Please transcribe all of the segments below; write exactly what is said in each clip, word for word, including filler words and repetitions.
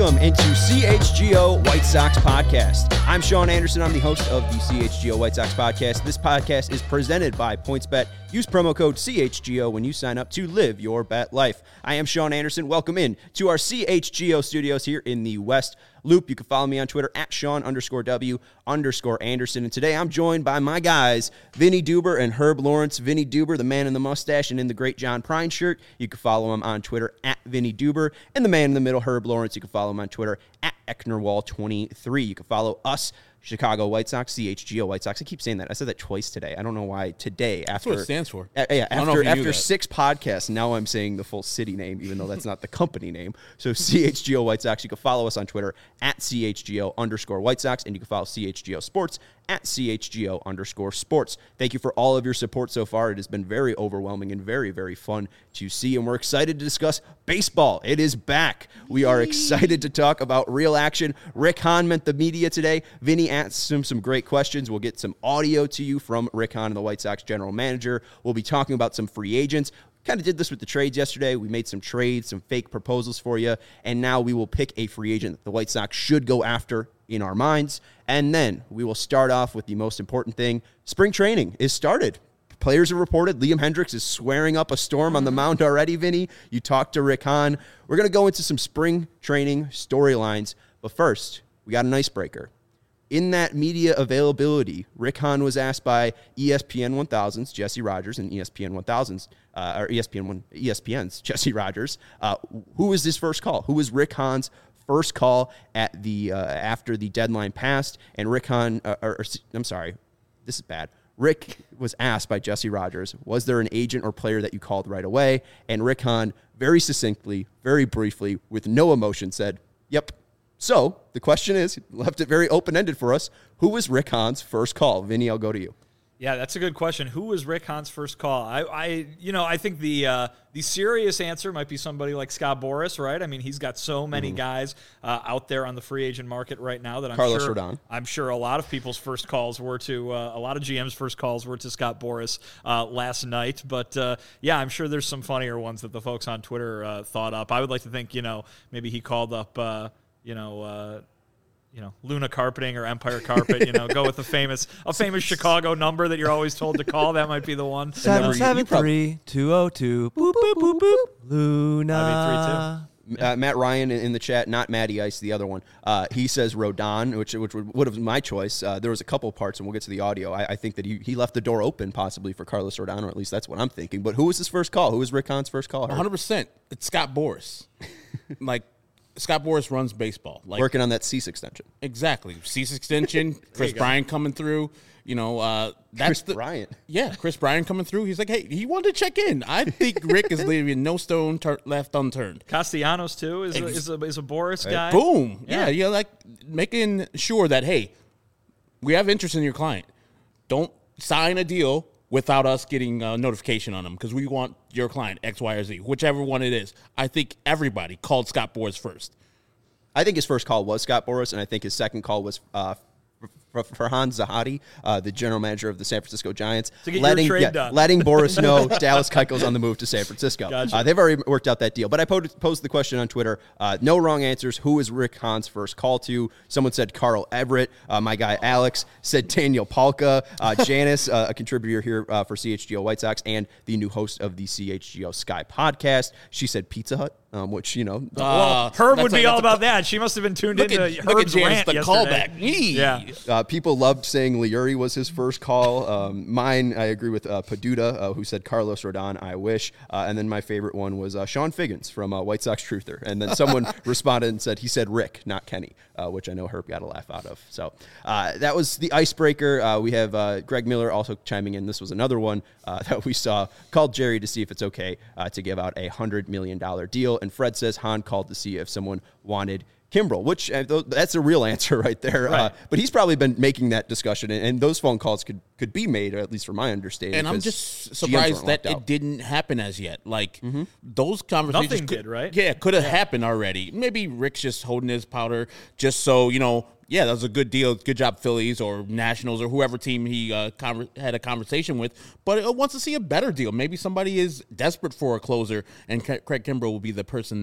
Welcome into C H G O White Sox Podcast. I'm Sean Anderson. I'm the host of the C H G O White Sox Podcast. This podcast is presented by PointsBet. Use promo code C H G O when you sign up to live your bet life. I am Sean Anderson. Welcome in to our C H G O studios here in the West Loop. You can follow me on Twitter at Sean underscore W underscore Anderson. And today I'm joined by my guys, Vinny Duber and Herb Lawrence. Vinny Duber, the man in the mustache and in the great John Prine shirt. You can follow him on Twitter at Vinny Duber. And the man in the middle, Herb Lawrence, you can follow him on Twitter at Ecknerwall twenty-three. You can follow us, Chicago White Sox, C H G O White Sox. I keep saying that. I said that twice today. I don't know why today. After, That's what it stands for. Uh, yeah, after after six podcasts, now I'm saying the full city name, even though that's not the company name. So C H G O White Sox. You can follow us on Twitter at C H G O underscore White Sox, and you can follow C H G O Sports at C H G O underscore Sports. Thank you for all of your support so far. It has been very overwhelming and very, very fun to see, and we're excited to discuss baseball. It is back. We are excited to talk about real action. Rick Hahn met the media today. Vinny asked him some great questions. We'll get some audio to you from Rick Hahn, the White Sox general manager. We'll be talking about some free agents. Kind of did this with the trades yesterday. We made some trades, some fake proposals for you, and now we will pick a free agent that the White Sox should go after in our minds. And then we will start off with the most important thing. Spring training is started. Players have reported Liam Hendriks is swearing up a storm on the mound already, Vinny. You talked to Rick Hahn. We're going to go into some spring training storylines. But first, we got an icebreaker. In that media availability, Rick Hahn was asked by E S P N one thousand's Jesse Rogers and E S P N one thousand's, uh, or E S P N one, E S P N's Jesse Rogers, uh, who was his first call? Who was Rick Hahn's first call at the uh, after the deadline passed? And Rick Hahn, uh, or, or I'm sorry, this is bad. Rick was asked by Jesse Rogers, was there an agent or player that you called right away? And Rick Hahn, very succinctly, very briefly, with no emotion, said, yep. So the question is, left it very open-ended for us, who was Rick Hahn's first call? Vinny, I'll go to you. Yeah, that's a good question. Who was Rick Hahn's first call? I, I you know, I think the uh, the serious answer might be somebody like Scott Boras, right? I mean, he's got so many mm-hmm. guys uh, out there on the free agent market right now that I'm Carlos sure Rodon. I'm sure a lot of people's first calls were to uh, a lot of G M's first calls were to Scott Boras uh, last night. But uh, yeah, I'm sure there's some funnier ones that the folks on Twitter uh, thought up. I would like to think, you know, maybe he called up, uh, you know. Uh, you know, Luna Carpeting or Empire Carpet, you know, go with a famous a famous Chicago number that you're always told to call. That might be the one. seven seven three, two oh two, boop, boop, boop, boop, Luna. I mean, three two. Uh, Matt Ryan in the chat, not Matty Ice, the other one. Uh, he says Rodon, which which would, would have been my choice. Uh, there was a couple parts, and we'll get to the audio. I, I think that he, he left the door open possibly for Carlos Rodon, or at least that's what I'm thinking. But who was his first call? Who was Rick Hahn's first call? one hundred percent. It's Scott Boras. like, Scott Boras runs baseball. Like, working on that cease extension. Exactly. Cease extension, Chris Bryant coming through. You know, uh, that's Chris the, Bryant. Yeah, Chris Bryant coming through. He's like, hey, he wanted to check in. I think Rick is leaving no stone tur- left unturned. Castellanos, too, is, Ex- a, is, a, is a Boras right. guy. Boom. Yeah. yeah, yeah, like making sure that, hey, we have interest in your client. Don't sign a deal without us getting a notification on them because we want your client, X, Y, or Z, whichever one it is. I think everybody called Scott Boras first. I think his first call was Scott Boras, and I think his second call was uh, Farhan Zahadi, uh, the general manager of the San Francisco Giants, to get letting, your trade yeah, done. letting Boras know Dallas Keuchel's on the move to San Francisco. Gotcha. Uh, they've already worked out that deal. But I posed, posed the question on Twitter. Uh, no wrong answers. Who is Rick Hahn's first call to? Someone said Carl Everett. Uh, my guy Alex said Daniel Palka. Uh, Janice, uh, a contributor here uh, for C H G O White Sox and the new host of the C H G O Sky podcast. She said Pizza Hut. Um, which, you know. Uh, well, Herb would be all about that. She must have been tuned into at, Herb's rant the yesterday. Callback. Yeah. Uh, people loved saying Liuri was his first call. Um, mine, I agree with uh, Paduda, uh, who said Carlos Rodon, I wish. Uh, and then my favorite one was uh, Sean Figgins from uh, White Sox Truther. And then someone responded and said, he said Rick, not Kenny, uh, which I know Herb got a laugh out of. So uh, that was the icebreaker. Uh, we have uh, Greg Miller also chiming in. This was another one uh, that we saw. Called Jerry to see if it's okay uh, to give out a one hundred million dollars deal. And Fred says Hahn called to see if someone wanted Kimbrel, which uh, th- that's a real answer right there. Right. Uh, but he's probably been making that discussion, and, and those phone calls could, could be made, or at least from my understanding. And I'm just surprised that it didn't happen as yet. Like, mm-hmm. those conversations. Nothing could, did, right? Yeah, could have yeah. happened already. Maybe Rick's just holding his powder just so, you know, yeah, that was a good deal. Good job, Phillies or Nationals or whoever team he uh, con- had a conversation with. But it wants to see a better deal. Maybe somebody is desperate for a closer, and Craig Kimbrel will be the person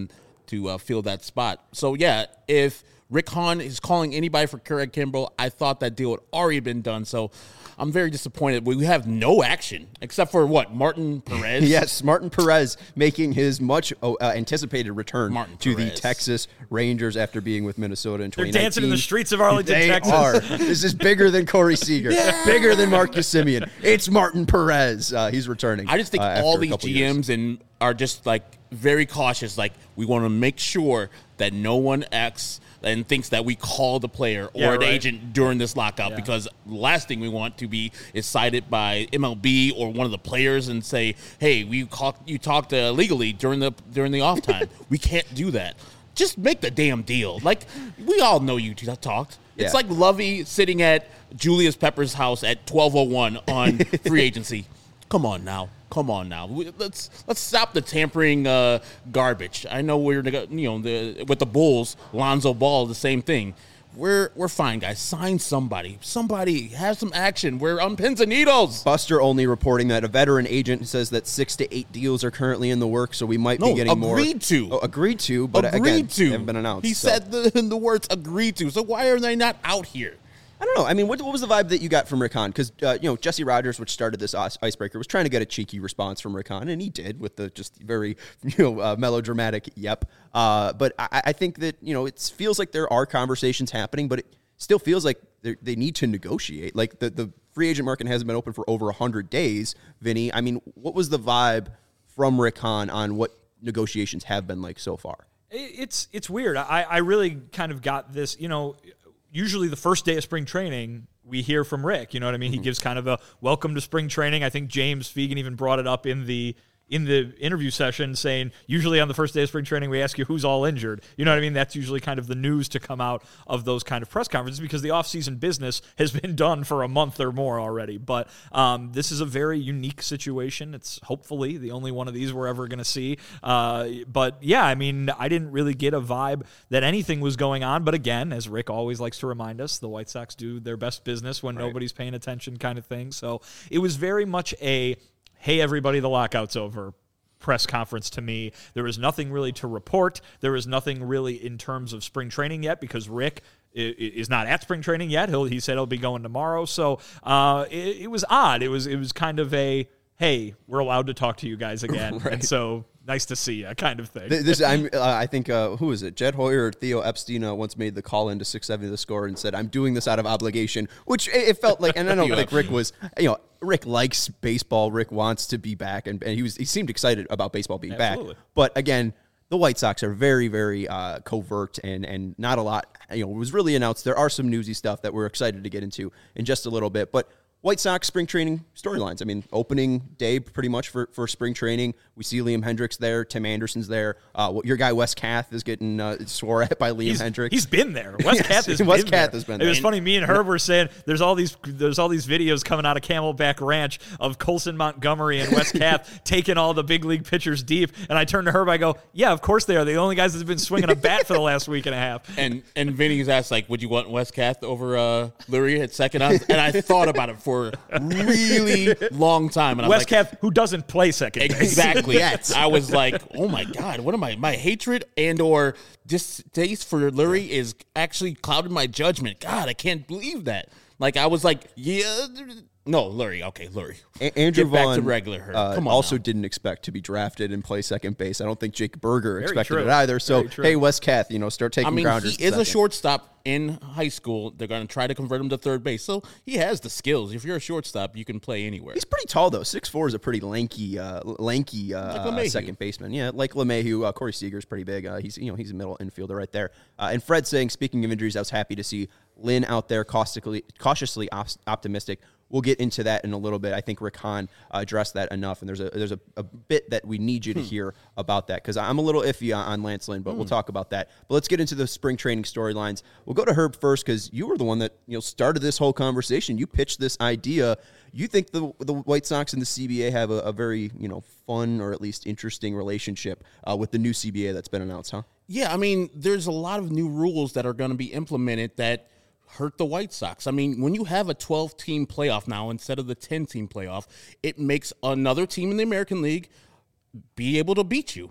to uh, fill that spot. So, yeah, if Rick Hahn is calling anybody for Craig Kimbrell, I thought that deal had already been done. So I'm very disappointed. We have no action except for what? Martin Perez? Yes, Martin Perez making his much uh, anticipated return Martin to Perez. the Texas Rangers after being with Minnesota in They're twenty nineteen. dancing in the streets of Arlington, they Texas. Are. This is bigger than Corey Seager, yeah. bigger than Marcus Semien. It's Martin Perez. Uh, he's returning. I just think uh, all a these couple G Ms years. and are just like very cautious. Like we want to make sure that no one acts and thinks that we called the player or Yeah, the right. agent during this lockout, Yeah. because the last thing we want to be is cited by M L B or one of the players and say, "Hey, we caught you talked uh, illegally during the during the off time." We can't do that. Just make the damn deal. Like we all know you t- talked. It's Yeah. like Lovey sitting at Julius Pepper's house at twelve oh one on free agency. Come on now. Come on now. We, let's let's stop the tampering uh, garbage. I know we're neg- you know the, with the Bulls, Lonzo Ball, the same thing. We're we're fine, guys. Sign somebody. Somebody have some action. We're on pins and needles. Buster only reporting that a veteran agent says that six to eight deals are currently in the works, so we might No, be getting more. agreed to. Oh, agreed to, but agreed again, to. they haven't been announced. He so. said the, the words agreed to. So why are they not out here? I don't know. I mean, what, what was the vibe that you got from Rick Hahn? Because, uh, you know, Jesse Rogers, which started this ice- icebreaker, was trying to get a cheeky response from Rick Hahn, and he did with the just very, you know, uh, melodramatic yep. Uh, but I, I think that, you know, it feels like there are conversations happening, but it still feels like they need to negotiate. Like, the, the free agent market hasn't been open for over one hundred days, Vinny. I mean, what was the vibe from Rick Hahn on what negotiations have been like so far? It's, it's weird. I, I really kind of got this, you know, usually the first day of spring training, we hear from Rick. You know what I mean? Mm-hmm. He gives kind of a welcome to spring training. I think James Fegan even brought it up in the in the interview session, saying usually on the first day of spring training, we ask you who's all injured. You know what I mean? That's usually kind of the news to come out of those kind of press conferences, because the offseason business has been done for a month or more already. But um, this is a very unique situation. It's hopefully the only one of these we're ever going to see. Uh, but yeah, I mean, I didn't really get a vibe that anything was going on. But again, as Rick always likes to remind us, the White Sox do their best business when right. nobody's paying attention kind of thing. So it was very much a, hey, everybody, the lockout's over press conference to me. There was nothing really to report. There was nothing really in terms of spring training yet, because Rick is not at spring training yet. He'll, he said he'll be going tomorrow. So uh, it, it was odd. It was it was kind of a, hey, we're allowed to talk to you guys again. Right. And so nice to see you kind of thing. This, I'm, uh, I think, uh, who is it? Jed Hoyer or Theo Epstein uh, once made the call into six seventy The Score and said, I'm doing this out of obligation, which it, it felt like, and I don't think Rick was, you know, Rick likes baseball. Rick wants to be back, and, and he was he seemed excited about baseball being Absolutely. back. But again, the White Sox are very, very uh, covert and and not a lot, you know, was really announced. There are some newsy stuff that we're excited to get into in just a little bit, but White Sox spring training storylines. I mean, opening day pretty much for, for spring training. We see Liam Hendricks there. Tim Anderson's there. Uh, your guy Wes Kath is getting uh, swore at by Liam he's, Hendricks. He's been there. Wes yes, Kath has Wes been Kath there. has been It there. was funny. Me and Herb were saying there's all these there's all these videos coming out of Camelback Ranch of Colson Montgomery and Wes Kath taking all the big league pitchers deep. And I turned to Herb. I go, yeah, of course they are. They're the only guys that's been swinging a bat for the last week and a half. And and Vinny's asked, like, would you want Wes Kath over uh, Lurie at second? And I thought about it for really long time. And Wes I'm like, Kath, who doesn't play second base. Exactly. I was like, oh my God, what am I? My hatred and or distaste for Lurie is actually clouded my judgment. God, I can't believe that. Like, I was like, yeah, no, Lurie. Okay, Lurie. A- Andrew Get back Vaughn to regular her. uh, Come on also now. didn't expect to be drafted and play second base. I don't think Jake Berger Very expected true. it either. So, Very true. hey, Wes Kath, you know, start taking I mean, grounders. he is second. a shortstop in high school. They're going to try to convert him to third base. So he has the skills. If you're a shortstop, you can play anywhere. He's pretty tall, though. six foot four is a pretty lanky, uh, lanky uh, Like second baseman. Yeah, like LeMahieu. Uh, Corey Seager's pretty big. Uh, he's, you know, he's a middle infielder right there. Uh, and Fred saying, speaking of injuries, I was happy to see Lynn out there caustically, cautiously op- optimistic. We'll get into that in a little bit. I think Rick Hahn uh, addressed that enough, and there's a there's a, a bit that we need you to hear about that, because I'm a little iffy on, on Lance Lynn, but hmm. we'll talk about that. But let's get into the spring training storylines. We'll go to Herb first, because you were the one that you know started this whole conversation. You pitched this idea. You think the the White Sox and the C B A have a, a very you know fun or at least interesting relationship uh, with the new C B A that's been announced, huh? Yeah, I mean, there's a lot of new rules that are going to be implemented that hurt the White Sox. I mean, when you have a twelve-team playoff now instead of the ten-team playoff, it makes another team in the American League be able to beat you.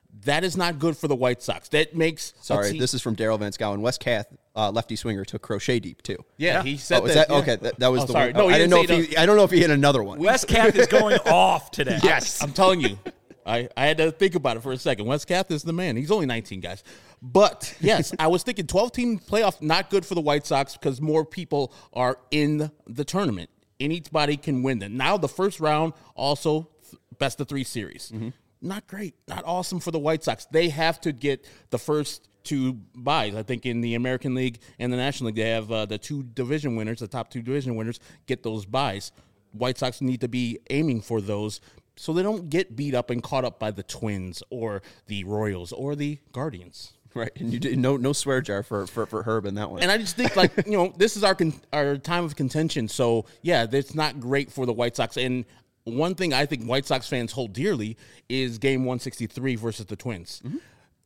That is not good for the White Sox. That makes Sorry, team- this is from Daryl Van Scowen. Wes Kath, uh, lefty swinger, took crochet deep too. Yeah, Yeah. he said Oh, is that. that yeah. okay? That, that was Oh, the sorry. one. No, Oh, he I didn't didn't know say if he. I don't know if he hit another one. Wes Kath is going off today. Yes. I'm telling you. I, I had to think about it for a second. Wes Kath is the man. He's only nineteen, guys. But, yes, I was thinking twelve-team playoff, not good for the White Sox because more people are in the tournament. Anybody can win them. Now the first round, also best of three series. Mm-hmm. Not great. Not awesome for the White Sox. They have to get the first two buys. I think in the American League and the National League, they have uh, the two division winners, the top two division winners, get those buys. White Sox need to be aiming for those so they don't get beat up and caught up by the Twins or the Royals or the Guardians. Right, and you did no no swear jar for, for, for Herb in that one. And I just think, like, you know, this is our con- our time of contention. So, yeah, that's not great for the White Sox. And one thing I think White Sox fans hold dearly is game one sixty-three versus the Twins. Mm-hmm.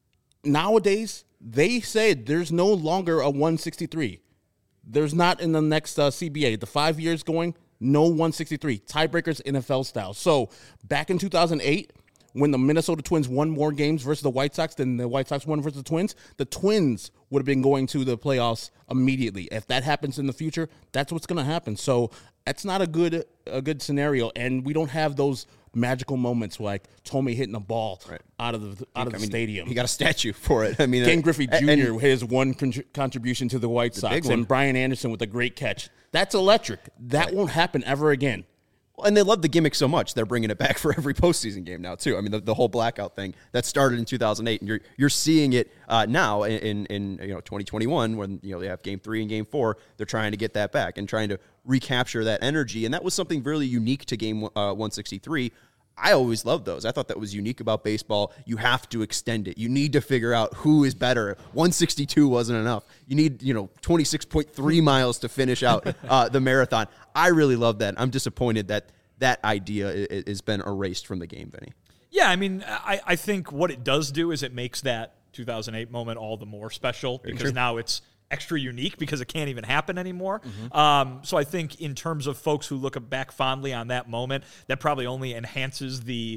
Nowadays, they said there's no longer a one sixty-three. There's not in the next uh, C B A. The five years going, no one sixty-three. Tiebreakers N F L style. So, back in two thousand eight, when the Minnesota Twins won more games versus the White Sox than the White Sox won versus the Twins, the Twins would have been going to the playoffs immediately. If that happens in the future, that's what's going to happen. So that's not a good a good scenario, and we don't have those magical moments like Tommy hitting a ball Right. out of the out of I the mean, stadium. He got a statue for it. I mean, Ken uh, Griffey and- Junior his one con- contribution to the White Sox, big one. and Brian Anderson with a great catch. That's electric. That right. won't happen ever again. And they love the gimmick so much, they're bringing it back for every postseason game now, too. I mean, the, the whole blackout thing that started in two thousand eight, and you're you're seeing it uh, now in, in, in you know twenty twenty-one when you know they have game three and game four. They're trying to get that back and trying to recapture that energy, and that was something really unique to game uh, one sixty-three. I always loved those. I thought that was unique about baseball. You have to extend it. You need to figure out who is better. one sixty-two wasn't enough. You need, you know, twenty-six point three miles to finish out uh, the marathon. I really love that. I'm disappointed that that idea has been erased from the game, Vinny. Yeah, I mean, I, I think what it does do is it makes that two thousand eight moment all the more special because true. now it's extra unique because it can't even happen anymore. Mm-hmm. Um, so I think in terms of folks who look back fondly on that moment, that probably only enhances the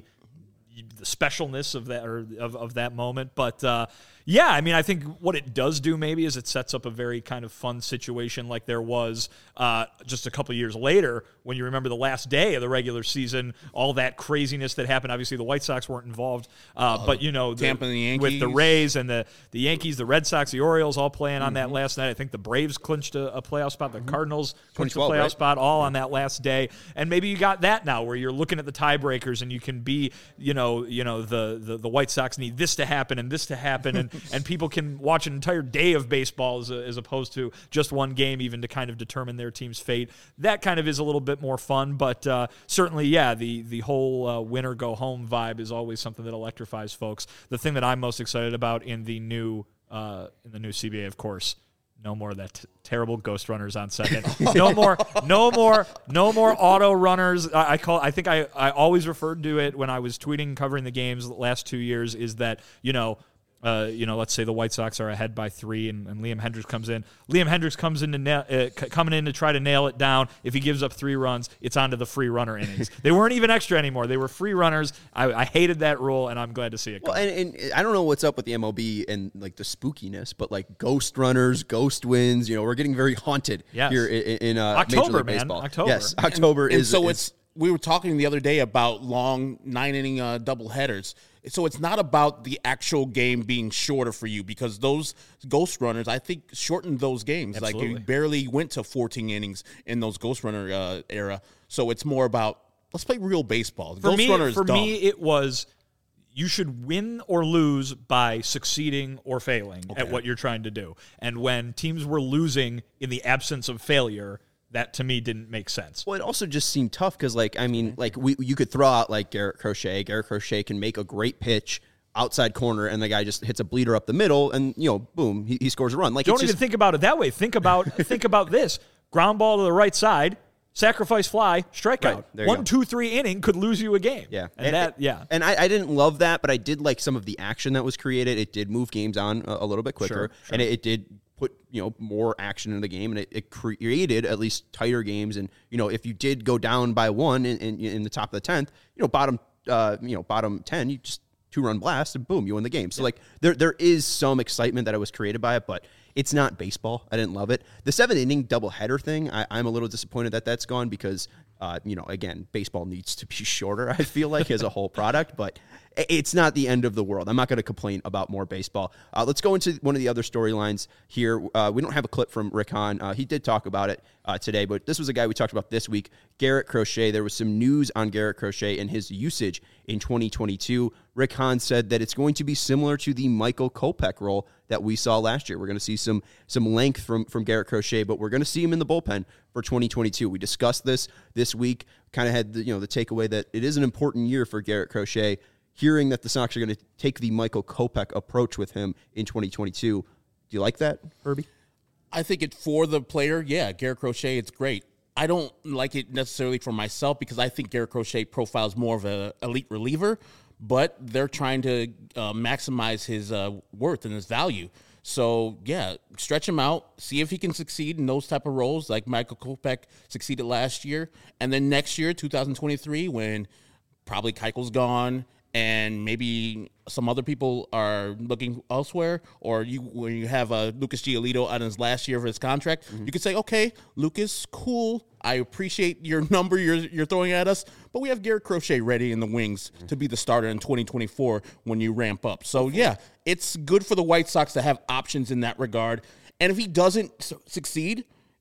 the specialness of that or of, of that moment. But uh, yeah, I mean, I think what it does do maybe is it sets up a very kind of fun situation like there was uh, just a couple of years later when you remember the last day of the regular season, all that craziness that happened. Obviously, the White Sox weren't involved, uh, Oh, but you know, the, Tampa and the Yankees. with the Rays and the, the Yankees, the Red Sox, the Orioles all playing on Mm-hmm. that last night. I think the Braves clinched a, a playoff spot. The Cardinals clinched a twenty twelve, playoff right? spot all on that last day. And maybe you got that now where you're looking at the tiebreakers and you can be, you know, you know, the, the, the White Sox need this to happen and this to happen. And, and people can watch an entire day of baseball as, a, as opposed to just one game even to kind of determine their team's fate. That kind of is a little bit more fun. But uh, certainly, yeah, the, the whole uh, winner go home vibe is always something that electrifies folks. The thing that I'm most excited about in the new uh, in the new C B A, of course, no more of that t- terrible ghost runners on second. No more, no more, no more auto runners. I, I call. I think I, I always referred to it when I was tweeting covering the games the last two years. Is that you know. Uh, you know, let's say the White Sox are ahead by three, and, and Liam Hendricks comes in. Liam Hendricks comes in to nail, uh, c- coming in to try to nail it down. If he gives up three runs, it's onto the free runner innings. They weren't even extra anymore; they were free runners. I, I hated that rule, and I'm glad to see it. Well, Come. and, and I don't know what's up with the M L B and like the spookiness, but like ghost runners, ghost wins. You know, we're getting very haunted Yes. here in, in uh, Major October, League man. Baseball. October. Yes, October and is. so is, it's we were talking the other day about long nine inning uh, double headers. So it's not about the actual game being shorter for you because those ghost runners, I think, shortened those games. Absolutely. Like you barely went to fourteen innings in those ghost runner uh, era. So it's more about let's play real baseball. For Ghost me, runner is for dumb. me, it was you should win or lose by succeeding or failing at what you're trying to do. And when teams were losing in the absence of failure, that to me didn't make sense. Well, it also just seemed tough because, like, I mean, like we you could throw out like Garrett Crochet. Garrett Crochet can make a great pitch outside corner, and the guy just hits a bleeder up the middle, and you know, boom, he, he scores a run. Like, Don't it's even just, think about it that way. Think about think about this: ground ball to the right side, sacrifice fly, strikeout. Right, there you One, go. two, three inning could lose you a game. Yeah, and, that yeah. And I, I didn't love that, but I did like some of the action that was created. It did move games on a, a little bit quicker, Sure, sure. and it, it did put you know more action in the game, and it, it created at least tighter games. And you know, if you did go down by one in, in, in the top of the tenth, you know, bottom uh, you know bottom ten, you just two-run blast, and boom, you win the game. So, like, there there is some excitement that I was created by it, but it's not baseball. I didn't love it. The seven-inning doubleheader thing, I, I'm a little disappointed that that's gone because, uh, you know, again, baseball needs to be shorter, I feel like, as a whole product, but it's not the end of the world. I'm not going to complain about more baseball. Uh, let's go into one of the other storylines here. Uh, we don't have a clip from Rick Hahn. Uh, he did talk about it uh, today, but this was a guy we talked about this week, Garrett Crochet. There was some news on Garrett Crochet and his usage in twenty twenty-two. Rick Hahn said that it's going to be similar to the Michael Kopech role that we saw last year. We're going to see some some length from, from Garrett Crochet, but we're going to see him in the bullpen for twenty twenty-two. We discussed this this week, kind of had the, you know, the takeaway that it is an important year for Garrett Crochet. Hearing that the Sox are going to take the Michael Kopech approach with him in twenty twenty-two. Do you like that, Herbie? I think it for the player, yeah, Garrett Crochet, it's great. I don't like it necessarily for myself because I think Garrett Crochet profiles more of an elite reliever, but they're trying to uh, maximize his uh, worth and his value. So, yeah, stretch him out, see if he can succeed in those type of roles like Michael Kopech succeeded last year. And then next year, two thousand twenty-three, when probably Keuchel's gone, and maybe some other people are looking elsewhere, or you when you have uh, Lucas Giolito on his last year of his contract, mm-hmm. you could say, okay, Lucas, cool. I appreciate your number you're you're throwing at us, but we have Garrett Crochet ready in the wings mm-hmm. to be the starter in twenty twenty-four when you ramp up. So, yeah, it's good for the White Sox to have options in that regard. And if he doesn't su- succeed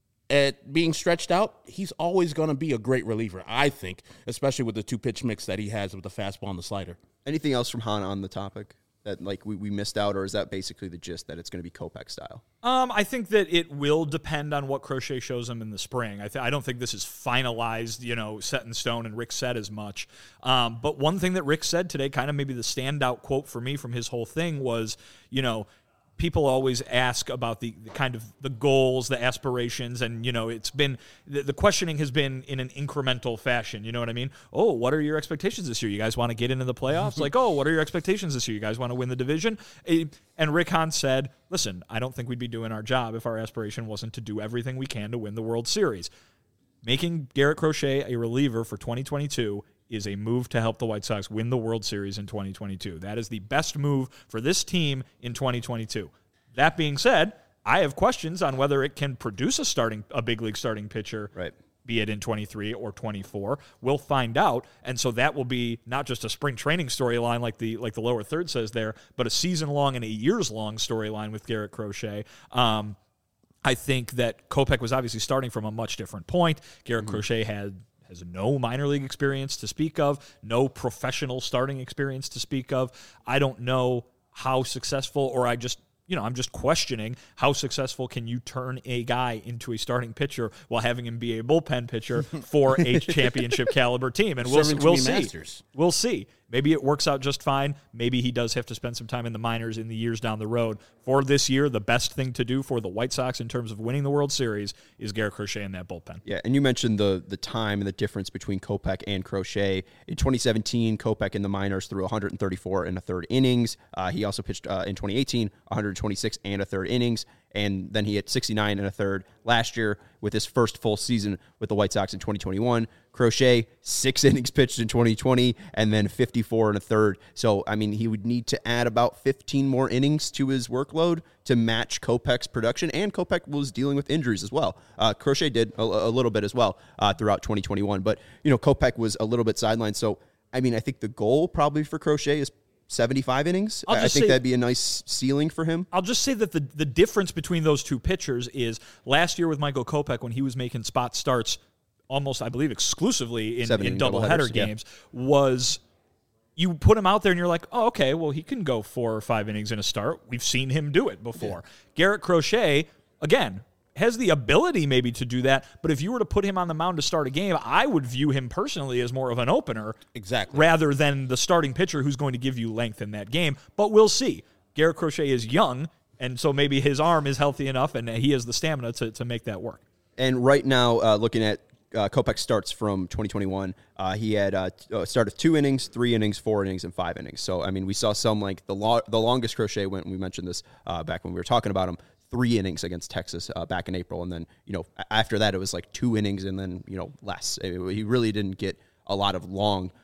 at being stretched out, he's always going to be a great reliever, I think, especially with the two-pitch mix that he has with the fastball and the slider. Anything else from Hahn on the topic that like we, we missed out, or is that basically the gist that it's going to be Kopech style? Um, I think that it will depend on what Crochet shows him in the spring. I, th- I don't think this is finalized, you know, set in stone, and Rick said as much. Um, but one thing that Rick said today, kind of maybe the standout quote for me from his whole thing was, you know, people always ask about the, the kind of the goals, the aspirations, and, you know, it's been, the, the questioning has been in an incremental fashion. You know what I mean? Oh, what are your expectations this year? You guys want to get into the playoffs? Like, oh, what are your expectations this year? You guys want to win the division? And Rick Hahn said, listen, I don't think we'd be doing our job if our aspiration wasn't to do everything we can to win the World Series. Making Garrett Crochet a reliever for twenty twenty-two is a move to help the White Sox win the World Series in twenty twenty-two. That is the best move for this team in twenty twenty-two. That being said, I have questions on whether it can produce a starting a big league starting pitcher, right, be it in twenty-three or twenty-four. We'll find out, and so that will be not just a spring training storyline like the like the lower third says there, but a season-long and a years-long storyline with Garrett Crochet. Um, I think that Kopech was obviously starting from a much different point. Garrett mm-hmm. Crochet had has no minor league experience to speak of, no professional starting experience to speak of. I don't know how successful, or I just, you know, I'm just questioning how successful can you turn a guy into a starting pitcher while having him be a bullpen pitcher for a championship caliber team. And we'll, we'll see. Masters. We'll see. Maybe it works out just fine. Maybe he does have to spend some time in the minors in the years down the road. For this year, the best thing to do for the White Sox in terms of winning the World Series is Garrett Crochet in that bullpen. Yeah, and you mentioned the the time and the difference between Kopech and Crochet. In twenty seventeen, Kopech in the minors threw one hundred thirty-four and a third innings. Uh, he also pitched uh, in twenty eighteen, one hundred twenty-six and a third innings. And then he hit sixty-nine and a third last year with his first full season with the White Sox in twenty twenty-one. Crochet, six innings pitched in twenty twenty, and then fifty-four and a third. So, I mean, he would need to add about fifteen more innings to his workload to match Kopech's production, and Kopech was dealing with injuries as well. Uh, Crochet did a, a little bit as well uh, throughout twenty twenty-one, but, you know, Kopech was a little bit sidelined. So, I mean, I think the goal probably for Crochet is seventy-five innings. I think say, that'd be a nice ceiling for him. I'll just say that the, the difference between those two pitchers is last year with Michael Kopech, when he was making spot starts almost, I believe, exclusively in, in doubleheader games, yeah. was you put him out there and you're like, oh, okay, well, he can go four or five innings in a start. We've seen him do it before. Yeah. Garrett Crochet, again, has the ability maybe to do that, but if you were to put him on the mound to start a game, I would view him personally as more of an opener, exactly, rather than the starting pitcher who's going to give you length in that game. But we'll see. Garrett Crochet is young, and so maybe his arm is healthy enough, and he has the stamina to, to make that work. And right now, uh, looking at uh, Kopech starts from twenty twenty-one, uh, he had uh, a start of two innings, three innings, four innings, and five innings. So, I mean, we saw some, like, the lo- the longest Crochet went, and we mentioned this uh, back when we were talking about him, three innings against Texas uh, back in April. And then, you know, after that, it was like two innings and then, you know, less. It, he really didn't get a lot of long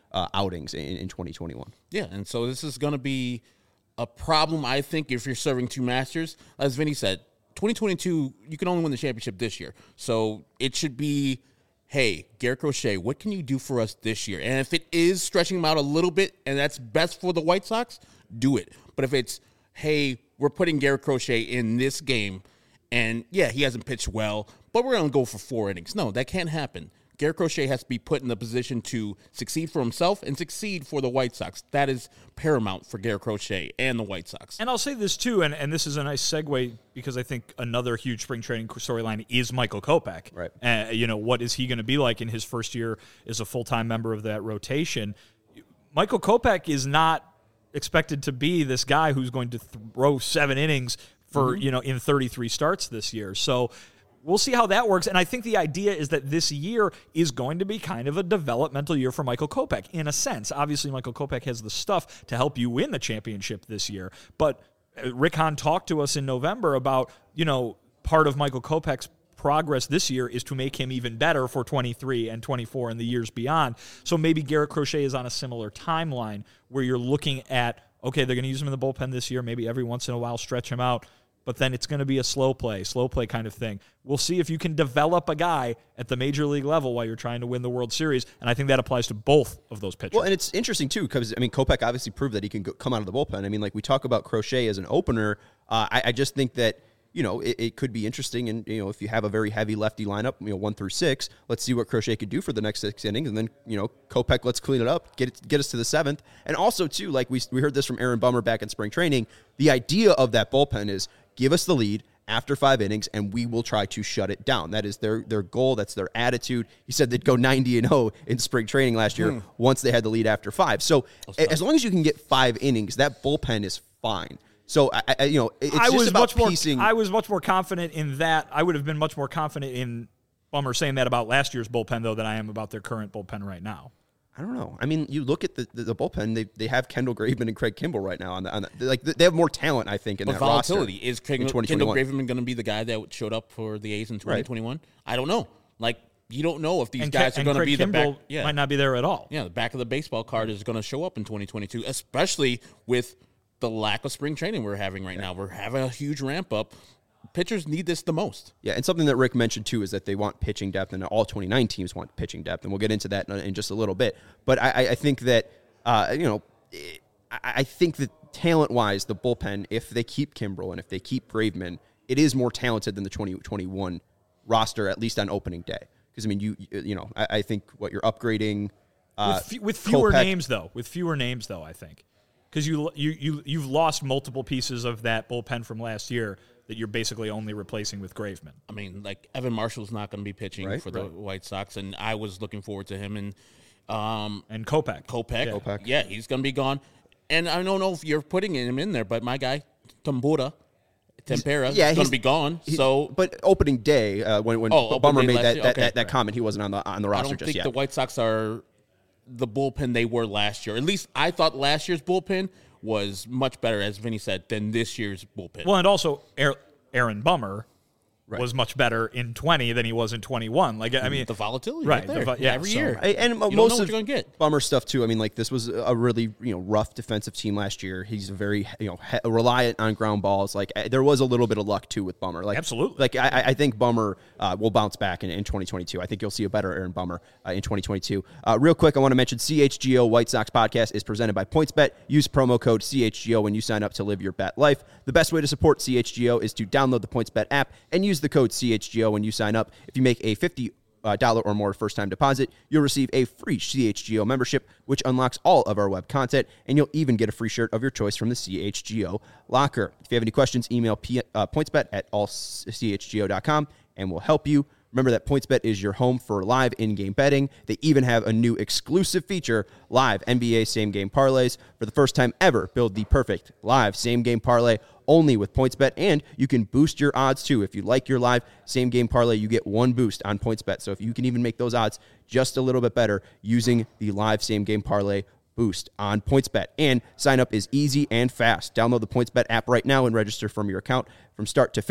uh, outings in, in twenty twenty-one. Yeah, and so this is going to be a problem, I think, if you're serving two Masters. As Vinny said, twenty twenty-two, you can only win the championship this year. So it should be, hey, Garrett Crochet, what can you do for us this year? And if it is stretching him out a little bit and that's best for the White Sox, do it. But if it's, hey, we're putting Garrett Crochet in this game, and yeah, he hasn't pitched well, but we're going to go for four innings. No, that can't happen. Garrett Crochet has to be put in the position to succeed for himself and succeed for the White Sox. That is paramount for Garrett Crochet and the White Sox. And I'll say this too, and, and this is a nice segue because I think another huge spring training storyline is Michael Kopech. Right. Uh, you know, what is he going to be like in his first year as a full-time member of that rotation? Michael Kopech is not expected to be this guy who's going to throw seven innings for, mm-hmm. you know, in thirty-three starts this year. So we'll see how that works. And I think the idea is that this year is going to be kind of a developmental year for Michael Kopech, in a sense. Obviously, Michael Kopech has the stuff to help you win the championship this year. But Rick Hahn talked to us in November about, you know, part of Michael Kopech's progress this year is to make him even better for twenty-three and twenty-four and the years beyond. So maybe Garrett Crochet is on a similar timeline where you're looking at, okay, they're going to use him in the bullpen this year, maybe every once in a while stretch him out, but then it's going to be a slow play, slow play kind of thing. We'll see if you can develop a guy at the major league level while you're trying to win the World Series, and I think that applies to both of those pitchers. Well, and it's interesting, too, because, I mean, Kopech obviously proved that he can go, come out of the bullpen. I mean, like, we talk about Crochet as an opener. Uh, I, I just think that, you know, it, it could be interesting, and, you know, if you have a very heavy lefty lineup, you know, one through six, let's see what Crochet could do for the next six innings, and then, you know, Kopech, let's clean it up, get it, get us to the seventh. And also, too, like we we heard this from Aaron Bummer back in spring training, the idea of that bullpen is give us the lead after five innings, and we will try to shut it down. That is their their goal. That's their attitude. He said they'd go ninety and oh in spring training last year hmm. once they had the lead after five. So as long as you can get five innings, that bullpen is fine. So, I, I, you know, it's I just was about much more, piecing. I was much more confident in that. I would have been much more confident in Bummer saying that about last year's bullpen, though, than I am about their current bullpen right now. I don't know. I mean, you look at the, the, the bullpen, they they have Kendall Graveman and Craig Kimbrell right now. On the, on the, like they have more talent, I think, in but that volatility. roster. Is Craig, Kendall Graveman going to be the guy that showed up for the A's in twenty twenty-one? Right. I don't know. Like, you don't know if these and guys Ke- are going to be the Kimbrell back. Yeah. might not be there at all. Yeah, the back of the baseball card is going to show up in twenty twenty-two, especially with the lack of spring training we're having right yeah. now. We're having a huge ramp up. Pitchers need this the most. Yeah, and something that Rick mentioned, too, is that they want pitching depth, and all twenty-nine teams want pitching depth, and we'll get into that in, in just a little bit. But I, I think that, uh, you know, I, I think that talent-wise, the bullpen, if they keep Kimbrell and if they keep Graveman, it is more talented than the twenty twenty-one roster, at least on opening day. Because, I mean, you you know, I, I think what you're upgrading uh, with, f- with fewer Kopech, names, though. With fewer names, though, I think. Because you, you, you, you've lost multiple pieces of that bullpen from last year that you're basically only replacing with Graveman. I mean, like, Evan Marshall's not going to be pitching right, for the right. White Sox, and I was looking forward to him. And um, and Kopech. Kopech. Yeah. Kopech. Yeah, he's going to be gone. And I don't know if you're putting him in there, but my guy, Tambura, Tempera, yeah, is going to be gone. So, But opening day, uh, when, when oh, Bummer made last that, year? that, Okay, that, that right. comment, he wasn't on the on the I roster don't just think yet. the White Sox are the bullpen they were last year. At least I thought last year's bullpen was much better, as Vinny said, than this year's bullpen. Well, and also Aaron Bummer Right. was much better in twenty than he was in twenty-one. Like, I mean, the volatility, right? right there. the, yeah, every so, year, I, and you don't most know of what you're gonna get. Bummer stuff too. I mean, like this was a really you know rough defensive team last year. He's a very you know he, reliant on ground balls. Like there was a little bit of luck too with Bummer. Like absolutely. Like I, I think Bummer uh, will bounce back in, in twenty twenty-two. I think you'll see a better Aaron Bummer uh, in twenty twenty-two. Uh, real quick, I want to mention C H G O White Sox podcast is presented by PointsBet. Use promo code C H G O when you sign up to live your bet life. The best way to support C H G O is to download the PointsBet app and use the code C H G O when you sign up. If you make a fifty dollars or more first-time deposit, you'll receive a free C H G O membership, which unlocks all of our web content, and you'll even get a free shirt of your choice from the C H G O locker. If you have any questions, email P- uh, pointsbet at all c h g o dot com, and we'll help you. Remember that PointsBet is your home for live in-game betting. They even have a new exclusive feature, live N B A same-game parlays. For the first time ever, build the perfect live same-game parlay only with PointsBet, and you can boost your odds too. If you like your live same-game parlay, you get one boost on PointsBet. So if you can even make those odds just a little bit better using the live same-game parlay boost on PointsBet. And sign up is easy and fast. Download the PointsBet app right now and register from your account from start to finish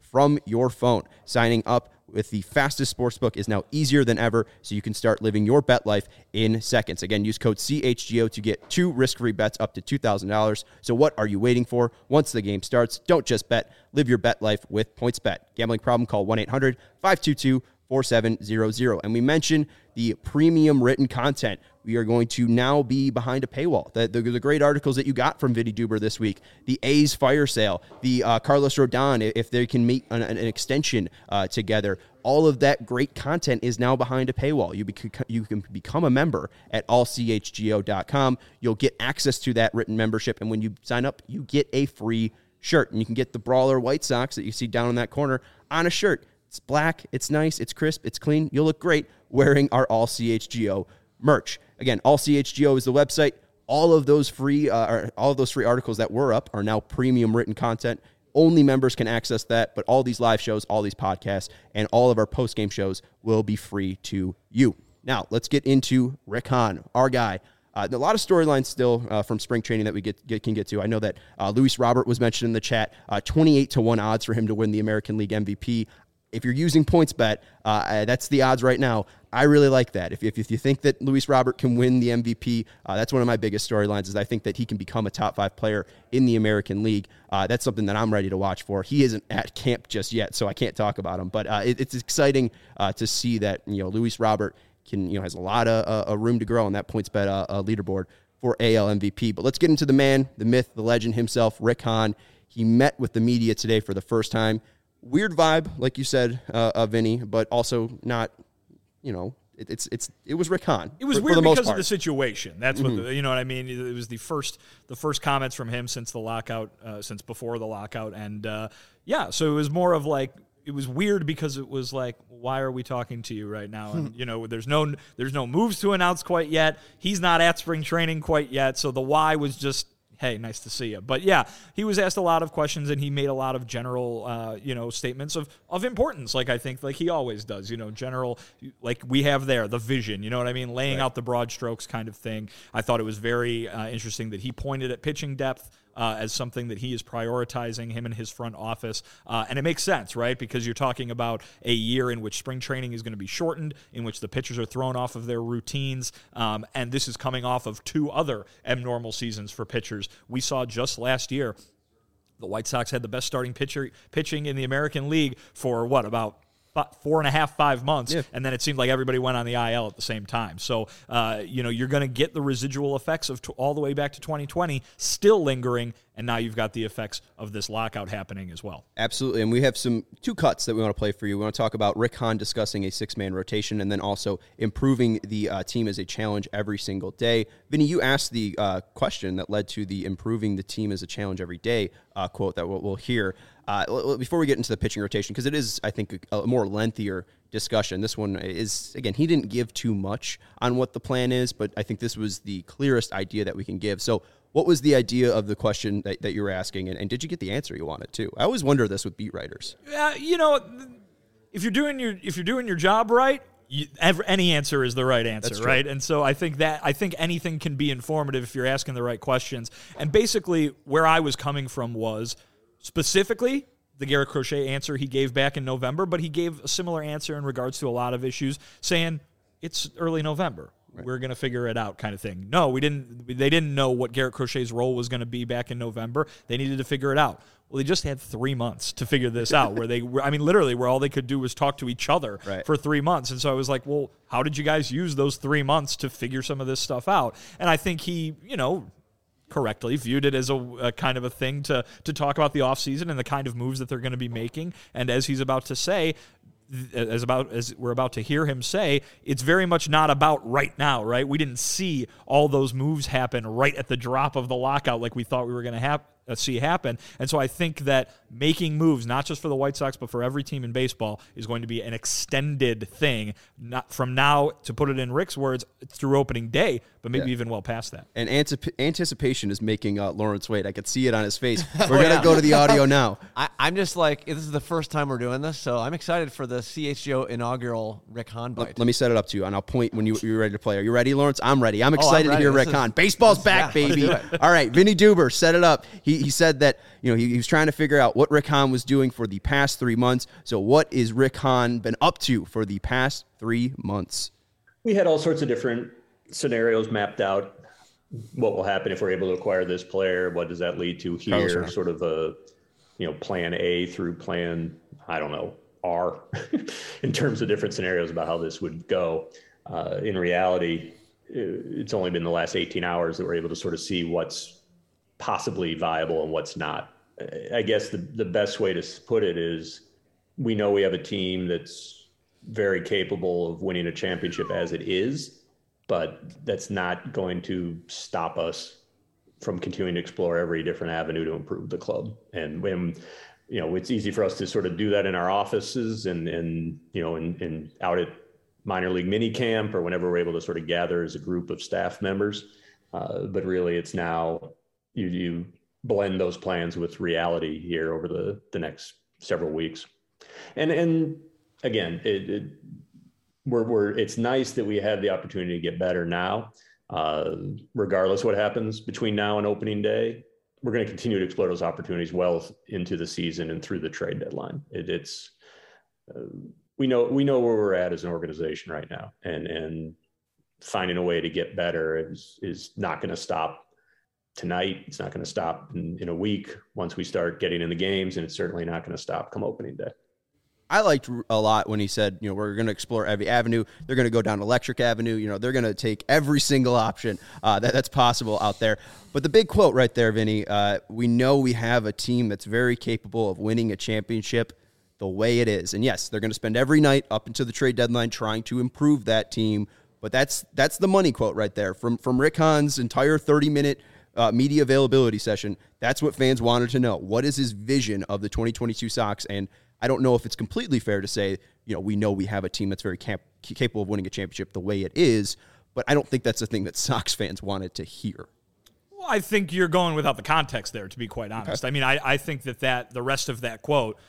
from your phone. Signing up with the fastest sportsbook is now easier than ever, so you can start living your bet life in seconds. Again, use code C H G O to get two risk-free bets up to two thousand dollars. So what are you waiting for? Once the game starts, don't just bet. Live your bet life with PointsBet. Gambling problem? Call one eight hundred five two two four seven zero zero. And we mentioned the premium written content. We are going to now be behind a paywall. The, the, the great articles that you got from Vinny Duber this week, the A's fire sale, the uh, Carlos Rodon, if they can meet an, an extension uh, together, all of that great content is now behind a paywall. You, bec- you can become a member at all c h g o dot com. You'll get access to that written membership, and when you sign up, you get a free shirt, and you can get the Brawler White Sox that you see down in that corner on a shirt. It's black, it's nice, it's crisp, it's clean. You'll look great wearing our All C H G O merch. Again, All C H G O is the website. All of those free, uh, all of those free articles that were up are now premium written content. Only members can access that, but all these live shows, all these podcasts, and all of our post-game shows will be free to you. Now, let's get into Rick Hahn, our guy. Uh, a lot of storylines still uh, from spring training that we get, get can get to. I know that uh, Luis Robert was mentioned in the chat. Uh, twenty-eight to one odds for him to win the American League M V P. If you're using PointsBet, uh, that's the odds right now. I really like that. If, if, if you think that Luis Robert can win the M V P, uh, that's one of my biggest storylines, is I think that he can become a top five player in the American League. Uh, that's something that I'm ready to watch for. He isn't at camp just yet, so I can't talk about him. But uh, it, it's exciting uh, to see that, you know, Luis Robert can, you know, has a lot of uh, room to grow on that PointsBet uh, uh, leaderboard for A L M V P. But let's get into the man, the myth, the legend himself, Rick Hahn. He met with the media today for the first time. Weird vibe, like you said, uh, uh, Vinny, but also not, you know, it, it's it's it was Rick Hahn. It was for, weird for the because most of the situation. That's mm-hmm. what the, you know what I mean. It was the first the first comments from him since the lockout, uh, since before the lockout, and uh, yeah, so it was more of like, it was weird because it was like, why are we talking to you right now? And you know, there's no there's no moves to announce quite yet. He's not at spring training quite yet, so the why was just, hey, nice to see you. But yeah, he was asked a lot of questions, and he made a lot of general, uh, you know, statements of, of importance, like I think like he always does, you know, general, like we have there, the vision, you know what I mean? Laying right out the broad strokes kind of thing. I thought it was very uh, interesting that he pointed at pitching depth Uh, as something that he is prioritizing, him and his front office. Uh, and it makes sense, right? Because you're talking about a year in which spring training is going to be shortened, in which the pitchers are thrown off of their routines. Um, and this is coming off of two other abnormal seasons for pitchers. We saw just last year, the White Sox had the best starting pitcher pitching in the American League for what, about four and a half, five months, yeah. And then it seemed like everybody went on the I L at the same time. So, uh, you know, you're going to get the residual effects of t- all the way back to twenty twenty still lingering, and now you've got the effects of this lockout happening as well. Absolutely, and we have some two cuts that we want to play for you. We want to talk about Rick Hahn discussing a six-man rotation, and then also improving the uh, team as a challenge every single day. Vinny, you asked the uh, question that led to the improving the team as a challenge every day uh, quote that we'll, we'll hear. Uh, before we get into the pitching rotation, because it is, I think, a, a more lengthier discussion. This one is, again, he didn't give too much on what the plan is, but I think this was the clearest idea that we can give. So what was the idea of the question that, that you were asking, and, and did you get the answer you wanted too? I always wonder this with beat writers. Uh, you know, if you're doing your if you're doing your job right, you, every, any answer is the right answer, right? And so I think that I think anything can be informative if you're asking the right questions. And basically, where I was coming from was specifically the Garrett Crochet answer he gave back in November, but he gave a similar answer in regards to a lot of issues, saying it's early November. Right. We're going to figure it out kind of thing. No, we didn't. They didn't know what Garrett Crochet's role was going to be back in November. They needed to figure it out. Well, they just had three months to figure this out, where they were, I mean, literally where all they could do was talk to each other right. for three months. And so I was like, well, how did you guys use those three months to figure some of this stuff out? And I think he, you know, correctly viewed it as a, a kind of a thing to to talk about the offseason and the kind of moves that they're going to be making. And as he's about to say, as about as we're about to hear him say, it's very much not about right now, right? We didn't see all those moves happen right at the drop of the lockout like we thought we were going to have. Uh, see happen. And so I think that making moves, not just for the White Sox, but for every team in baseball, is going to be an extended thing, not from now, to put it in Rick's words, through opening day, but maybe yeah. even well past that. And antip- anticipation is making uh, Lawrence wait. I could see it on his face. We're oh, going to yeah. go to the audio now. I, I'm just like, this is the first time we're doing this, so I'm excited for the C H G O inaugural Rick Hahn bite. Let, let me set it up to you, and I'll point when you, you're ready to play. Are you ready, Lawrence? I'm ready. I'm excited oh, I'm ready. to hear this Rick is, Hahn. Baseball's back, yeah, baby. All right, Vinny Duber, set it up. He he, he said that, you know, he, he was trying to figure out what Rick Hahn was doing for the past three months. So what is Rick Hahn been up to for the past three months? We had all sorts of different scenarios mapped out. What will happen if we're able to acquire this player? What does that lead to here? Sort of a, you know, plan A through plan, I don't know, R in terms of different scenarios about how this would go. Uh, in reality, it's only been the last eighteen hours that we're able to sort of see what's possibly viable and what's not. I guess the, the best way to put it is we know we have a team that's very capable of winning a championship as it is, but that's not going to stop us from continuing to explore every different avenue to improve the club. And when, you know, it's easy for us to sort of do that in our offices and, and you know, and, and out at minor league mini camp or whenever we're able to sort of gather as a group of staff members. Uh, but really it's now you, you blend those plans with reality here over the, the next several weeks. And, and again, it, it we're, we're, it's nice that we have the opportunity to get better now. Uh, regardless what happens between now and opening day, we're going to continue to explore those opportunities well into the season and through the trade deadline. It, it's, uh, we know, we know where we're at as an organization right now, and, and finding a way to get better is, is not going to stop tonight. It's not going to stop in, in a week once we start getting in the games, and it's certainly not going to stop come opening day. I liked a lot when he said, you know, we're going to explore every avenue. They're going to go down Electric Avenue. You know, they're going to take every single option uh, that, that's possible out there. But the big quote right there, Vinny, uh, we know we have a team that's very capable of winning a championship the way it is. And yes, they're going to spend every night up until the trade deadline trying to improve that team. But that's that's the money quote right there from, from Rick Hahn's entire thirty-minute uh, media availability session. That's what fans wanted to know. What is his vision of the twenty twenty-two Sox? And I don't know if it's completely fair to say, you know, we know we have a team that's very cap- capable of winning a championship the way it is, but I don't think that's the thing that Sox fans wanted to hear. Well, I think you're going without the context there, to be quite honest. Okay. I mean, I, I think that, that the rest of that quote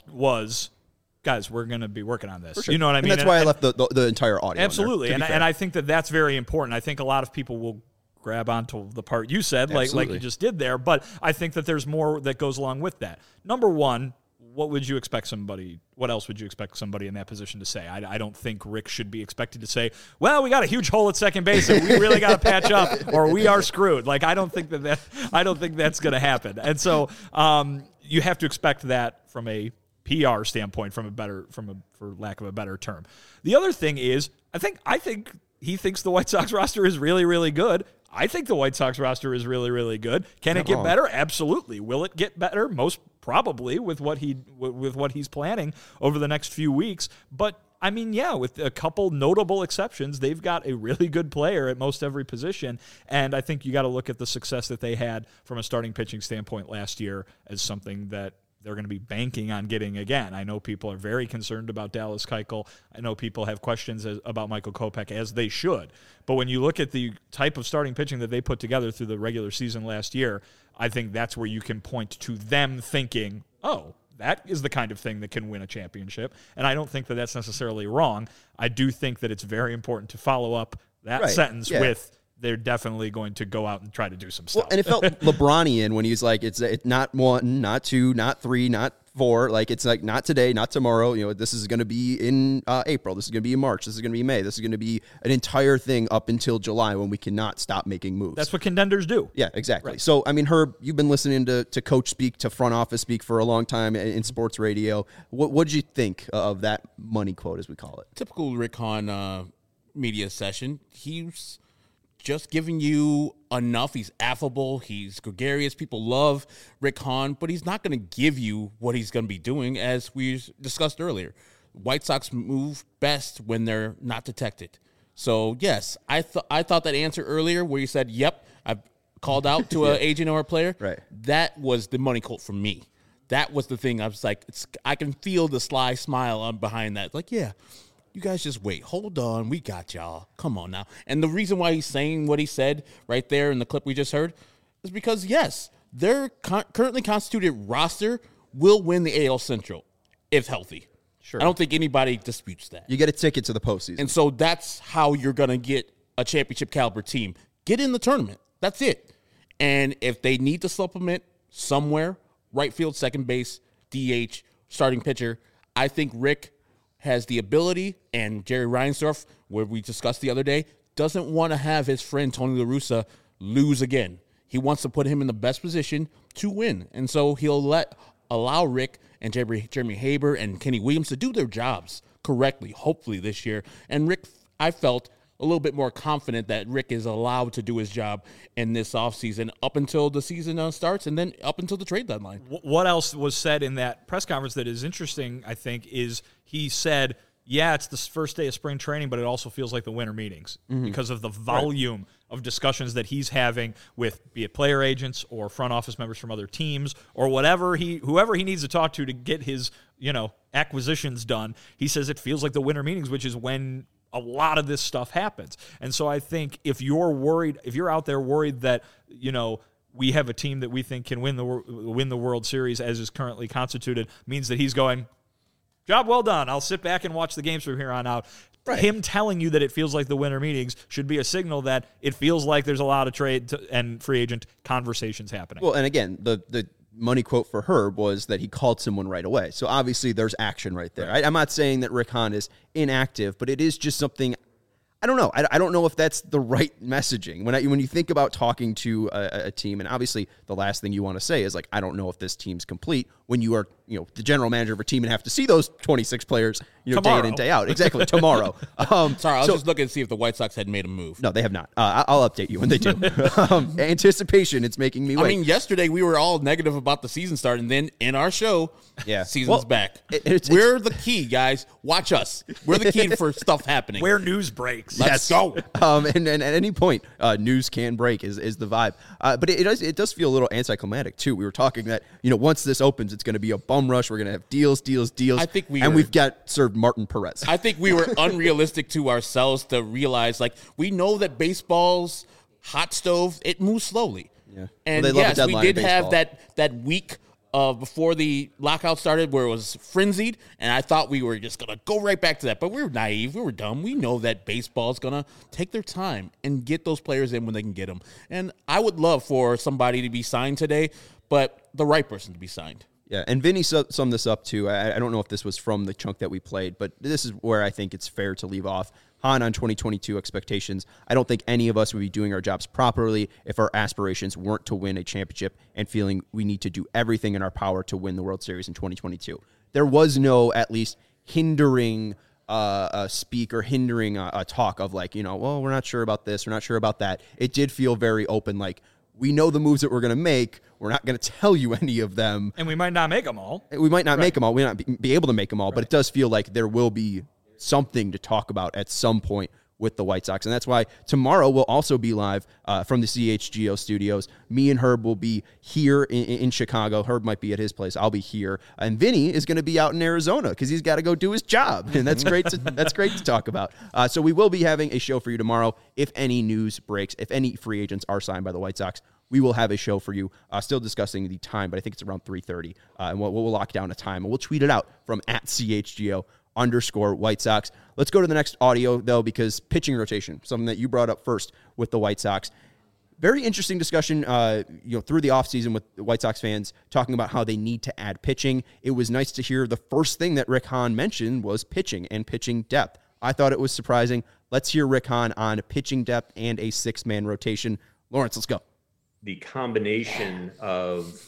was, guys, we're going to be working on this. Sure. You know what I mean? And that's and, why and, I left the, the, the entire audio. Absolutely. In there, and, and I think that that's very important. I think a lot of people will grab onto the part you said, like, like you just did there, but I think that there's more that goes along with that. Number one, what would you expect somebody, what else would you expect somebody in that position to say? I, I don't think Rick should be expected to say, well, we got a huge hole at second base and we really got to patch up or we are screwed. Like, I don't think that, that I don't think that's going to happen. And so um, you have to expect that from a P R standpoint, from a better, from a, for lack of a better term. The other thing is, I think, I think he thinks the White Sox roster is really, really good. I think the White Sox roster is really, really good. Can Not it get wrong. better? Absolutely. Will it get better? Most probably with what he with what he's planning over the next few weeks. But I mean, yeah, with a couple notable exceptions, they've got a really good player at most every position. And I think you got to look at the success that they had from a starting pitching standpoint last year as something that they're going to be banking on getting again. I know people are very concerned about Dallas Keuchel. I know people have questions as, about Michael Kopech, as they should. But when you look at the type of starting pitching that they put together through the regular season last year, I think that's where you can point to them thinking, oh, that is the kind of thing that can win a championship. And I don't think that that's necessarily wrong. I do think that it's very important to follow up that right. sentence yeah. with, they're definitely going to go out and try to do some stuff. Well, and it felt LeBronian when he was like, it's, it's not one, not two, not three, not four. Like, it's like not today, not tomorrow. You know, this is going to be in uh, April. This is going to be in March. This is going to be May. This is going to be an entire thing up until July when we cannot stop making moves. That's what contenders do. Yeah, exactly. Right. So, I mean, Herb, you've been listening to, to coach speak, to front office speak for a long time in, in sports radio. What what did you think of that money quote, as we call it? Typical Rick Hahn uh, media session. He's just giving you enough. He's affable. He's gregarious. People love Rick Hahn, but he's not going to give you what he's going to be doing, as we discussed earlier. White Sox move best when they're not detected. So, yes, I, th- I thought that answer earlier where you said, yep, I've called out to an yeah. agent or a player. Right. That was the money quote for me. That was the thing. I was like, it's, I can feel the sly smile on behind that. Like, yeah. You guys just wait. Hold on. We got y'all. Come on now. And the reason why he's saying what he said right there in the clip we just heard is because, yes, their con- currently constituted roster will win the A L Central if healthy. Sure. I don't think anybody disputes that. You get a ticket to the postseason. And so that's how you're going to get a championship caliber team. Get in the tournament. That's it. And if they need to supplement somewhere, right field, second base, D H, starting pitcher. I think Rick has the ability, and Jerry Reinsdorf, where we discussed the other day, doesn't want to have his friend Tony La Russa lose again. He wants to put him in the best position to win. And so he'll let allow Rick and Jeremy, Jeremy Haber and Kenny Williams to do their jobs correctly, hopefully this year. And Rick, I felt a little bit more confident that Rick is allowed to do his job in this offseason up until the season uh, starts and then up until the trade deadline. What else was said in that press conference that is interesting, I think, is he said, yeah, it's the first day of spring training, but it also feels like the winter meetings mm-hmm. because of the volume right. of discussions that he's having with be it player agents or front office members from other teams or whatever he whoever he needs to talk to to get his, you know, acquisitions done. He says it feels like the winter meetings, which is when a lot of this stuff happens. And so I think if you're worried, if you're out there worried that, you know, we have a team that we think can win the win the World Series as is currently constituted, means that he's going, job well done. I'll sit back and watch the games from here on out. Right. Him telling you that it feels like the winter meetings should be a signal that it feels like there's a lot of trade to, and free agent conversations happening. Well, and again, the the money quote for Herb was that he called someone right away. So obviously there's action right there. Right. I, I'm not saying that Rick Hahn is inactive, but it is just something. I don't know. I, I don't know if that's the right messaging. When I, when you think about talking to a, a team, and obviously the last thing you want to say is like, I don't know if this team's complete when you are, you know, the general manager of a team and have to see those twenty-six players, you know, tomorrow. day in and day out. Exactly. Tomorrow. Um, Sorry, I was so, just looking to see if the White Sox had made a move. No, they have not. Uh, I'll update you when they do. um, anticipation, it's making me wait. I mean, yesterday we were all negative about the season start, and then in our show, yeah, season's well, back. It, it's, we're it's, the key, guys. Watch us. We're the key for stuff happening. Where news breaks. Let's yes. go. Um, and, and at any point, uh, news can break is, is the vibe. Uh, but it, it does it does feel a little anticlimactic too. We were talking that, you know, once this opens, it's going to be a bum rush. We're going to have deals, deals, deals. I think we and were, we've got served Martin Perez. I think we were unrealistic to ourselves to realize, like, we know that baseball's hot stove, it moves slowly. Yeah. And well, yes, we did have that that week Uh, before the lockout started where it was frenzied, and I thought we were just going to go right back to that. But we were naive. We were dumb. We know that baseball is going to take their time and get those players in when they can get them. And I would love for somebody to be signed today, but the right person to be signed. Yeah, and Vinny su- summed this up too. I, I don't know if this was from the chunk that we played, but this is where I think it's fair to leave off. Hahn on twenty twenty-two expectations. I don't think any of us would be doing our jobs properly if our aspirations weren't to win a championship and feeling we need to do everything in our power to win the World Series in twenty twenty-two. There was no, at least, hindering uh, a speak or hindering a, a talk of like, you know, well, we're not sure about this, we're not sure about that. It did feel very open, like, we know the moves that we're going to make. We're not going to tell you any of them. And we might not make them all. We might not right. make them all. We might not be, be able to make them all, right. but it does feel like there will be something to talk about at some point with the White Sox. And that's why tomorrow we'll also be live uh, from the C H G O studios. Me and Herb will be here in, in Chicago. Herb might be at his place. I'll be here. And Vinny is going to be out in Arizona because he's got to go do his job. And that's great to, that's great to talk about. Uh, so we will be having a show for you tomorrow. If any news breaks, if any free agents are signed by the White Sox, we will have a show for you. Uh, still discussing the time, but I think it's around three thirty. Uh, and we'll, we'll lock down a time, and we'll tweet it out from at C H G O underscore White Sox. Let's go to the next audio, though, because pitching rotation, something that you brought up first with the White Sox. Very interesting discussion, uh, you know, through the offseason with the White Sox fans talking about how they need to add pitching. It was nice to hear the first thing that Rick Hahn mentioned was pitching and pitching depth. I thought it was surprising. Let's hear Rick Hahn on pitching depth and a six-man rotation. Lawrence, let's go. The combination of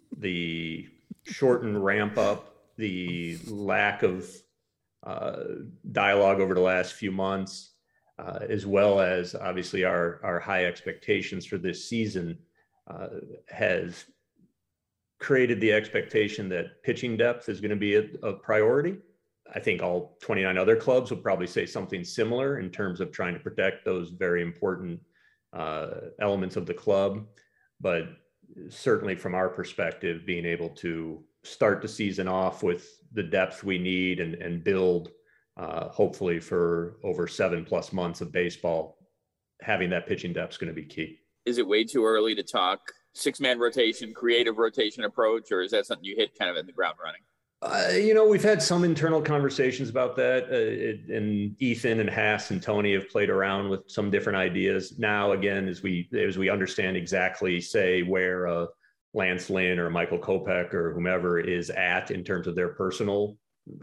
the shortened ramp up, the lack of uh, dialogue over the last few months, uh, as well as obviously our, our high expectations for this season, uh, has created the expectation that pitching depth is going to be a, a priority. I think all twenty-nine other clubs will probably say something similar in terms of trying to protect those very important uh, elements of the club. But certainly from our perspective, being able to start the season off with the depth we need and, and build, uh, hopefully for over seven plus months of baseball, having that pitching depth is going to be key. Is it way too early to talk six-man rotation, creative rotation approach, or is that something you hit kind of in the ground running? Uh, you know, we've had some internal conversations about that, uh, it, and Ethan and Haas and Tony have played around with some different ideas. Now, again, as we as we understand exactly, say, where a, Lance Lynn or Michael Kopech or whomever is at in terms of their personal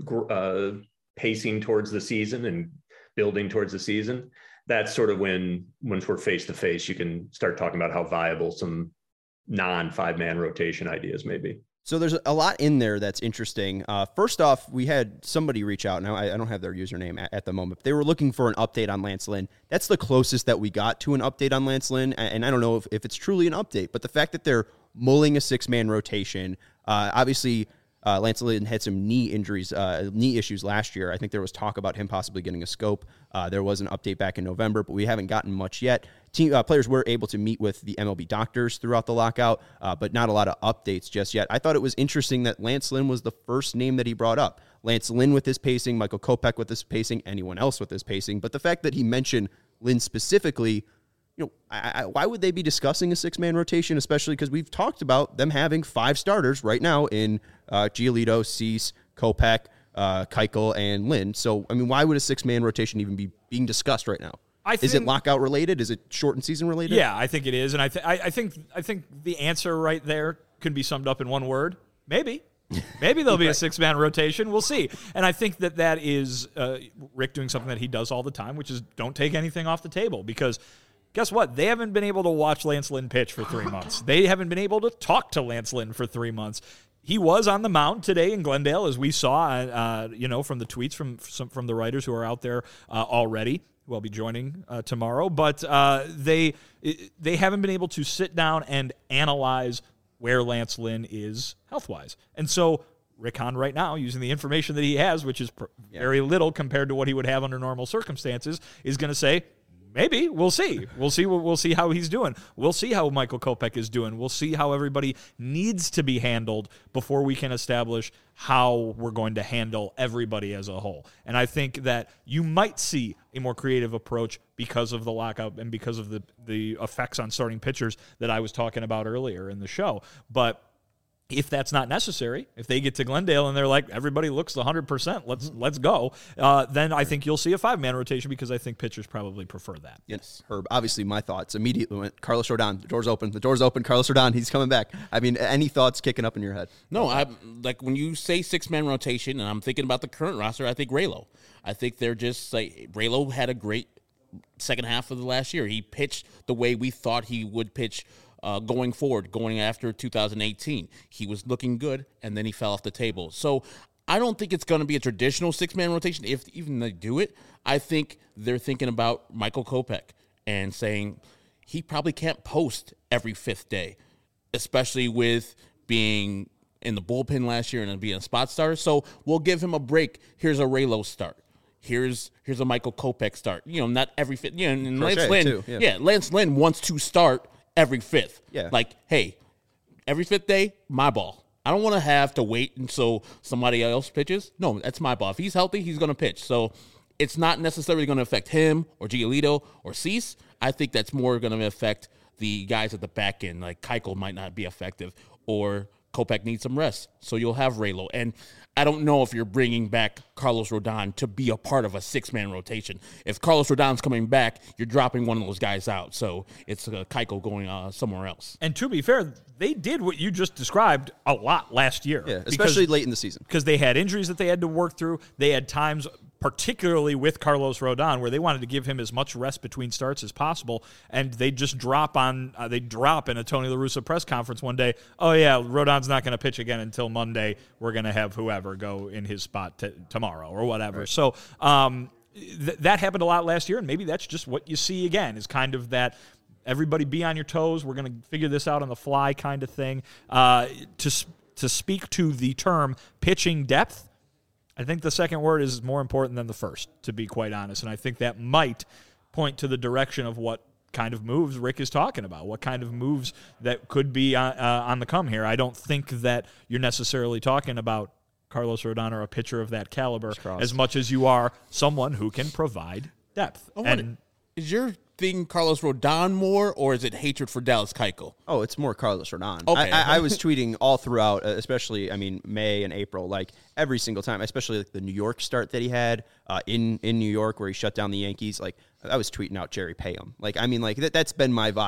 uh, pacing towards the season and building towards the season, that's sort of when, once we're face to face, you can start talking about how viable some non five man rotation ideas may be. So there's a lot in there that's interesting. Uh, first off, we had somebody reach out. Now, I, I don't have their username at, at the moment. They were looking for an update on Lance Lynn. That's the closest that we got to an update on Lance Lynn, and, and I don't know if, if it's truly an update, but the fact that they're mulling a six-man rotation, uh, obviously uh, Lance Lynn had some knee injuries, uh, knee issues last year. I think there was talk about him possibly getting a scope. Uh, there was an update back in November, but we haven't gotten much yet. Team uh, players were able to meet with the M L B doctors throughout the lockout, uh, but not a lot of updates just yet. I thought it was interesting that Lance Lynn was the first name that he brought up. Lance Lynn with his pacing, Michael Kopech with his pacing, anyone else with his pacing. But the fact that he mentioned Lynn specifically, you know, I, I, why would they be discussing a six-man rotation, especially because we've talked about them having five starters right now in uh, Giolito, Cease, Kopech, uh, Keuchel, and Lynn. So, I mean, why would a six-man rotation even be being discussed right now? I think, is it lockout related? Is it shortened season related? Yeah, I think it is, and I, th- I, I think I think the answer right there could be summed up in one word: maybe. Maybe there'll be a six-man rotation. We'll see. And I think that that is uh, Rick doing something that he does all the time, which is don't take anything off the table. Because guess what? They haven't been able to watch Lance Lynn pitch for three months. They haven't been able to talk to Lance Lynn for three months. He was on the mound today in Glendale, as we saw, uh, you know, from the tweets from some, from the writers who are out there uh, already. Who I'll be joining uh, tomorrow. But uh, they they haven't been able to sit down and analyze where Lance Lynn is health-wise. And so Rick Hahn right now, using the information that he has, which is pr- yeah. very little compared to what he would have under normal circumstances, is going to say, maybe. We'll see. We'll see. We'll see how he's doing. We'll see how Michael Kopech is doing. We'll see how everybody needs to be handled before we can establish how we're going to handle everybody as a whole. And I think that you might see a more creative approach because of the lockout and because of the, the effects on starting pitchers that I was talking about earlier in the show. But if that's not necessary, if they get to Glendale and they're like, everybody looks one hundred percent, let's let's go, uh, then I think you'll see a five-man rotation because I think pitchers probably prefer that. Yes, Herb, obviously my thoughts immediately went, Carlos Rodon, the door's open, the door's open, Carlos Rodon, he's coming back. I mean, any thoughts kicking up in your head? No, I like when you say six-man rotation, and I'm thinking about the current roster, I think Raylo. I think they're just like, Raylo had a great second half of the last year. He pitched the way we thought he would pitch Uh, going forward, going after two thousand eighteen. He was looking good, and then he fell off the table. So I don't think it's going to be a traditional six-man rotation, if even they do it. I think they're thinking about Michael Kopech and saying he probably can't post every fifth day, especially with being in the bullpen last year and being a spot starter. So we'll give him a break. Here's a Raylo start. Here's here's a Michael Kopech start. You know, not every fifth. You know, and Lance Lynn, too, yeah. yeah, Lance Lynn wants to start every fifth. Yeah. Like, hey, every fifth day, my ball. I don't want to have to wait until somebody else pitches. No, that's my ball. If he's healthy, he's going to pitch. So it's not necessarily going to affect him or Giolito or Cease. I think that's more going to affect the guys at the back end. Like Keuchel might not be effective, or Kopech needs some rest. So you'll have Raylo. And I don't know if you're bringing back Carlos Rodon to be a part of a six-man rotation. If Carlos Rodon's coming back, you're dropping one of those guys out. So it's uh, Keuchel going uh, somewhere else. And to be fair, they did what you just described a lot last year. Yeah, especially late in the season. Because they had injuries that they had to work through. They had times, particularly with Carlos Rodon, where they wanted to give him as much rest between starts as possible, and they just drop on uh, they drop in a Tony La Russa press conference one day, oh yeah, Rodon's not going to pitch again until Monday. We're going to have whoever go in his spot t- tomorrow or whatever. Right. So um, th- that happened a lot last year, and maybe that's just what you see again, is kind of that everybody be on your toes, we're going to figure this out on the fly kind of thing. Uh, to to speak to the term pitching depth, I think the second word is more important than the first, to be quite honest. And I think that might point to the direction of what kind of moves Rick is talking about, what kind of moves that could be uh, uh, on the come here. I don't think that you're necessarily talking about Carlos Rodon or a pitcher of that caliber as much as you are someone who can provide depth. Oh, and is your thing Carlos Rodon more, or is it hatred for Dallas Keuchel? Oh, it's more Carlos Rodon. Okay. I, I, I was tweeting all throughout, especially, I mean, May and April, like every single time, especially like the New York start that he had uh, in, in New York where he shut down the Yankees. Like, I was tweeting out Jerry Payham. Like, I mean, like that, that's been my vibe.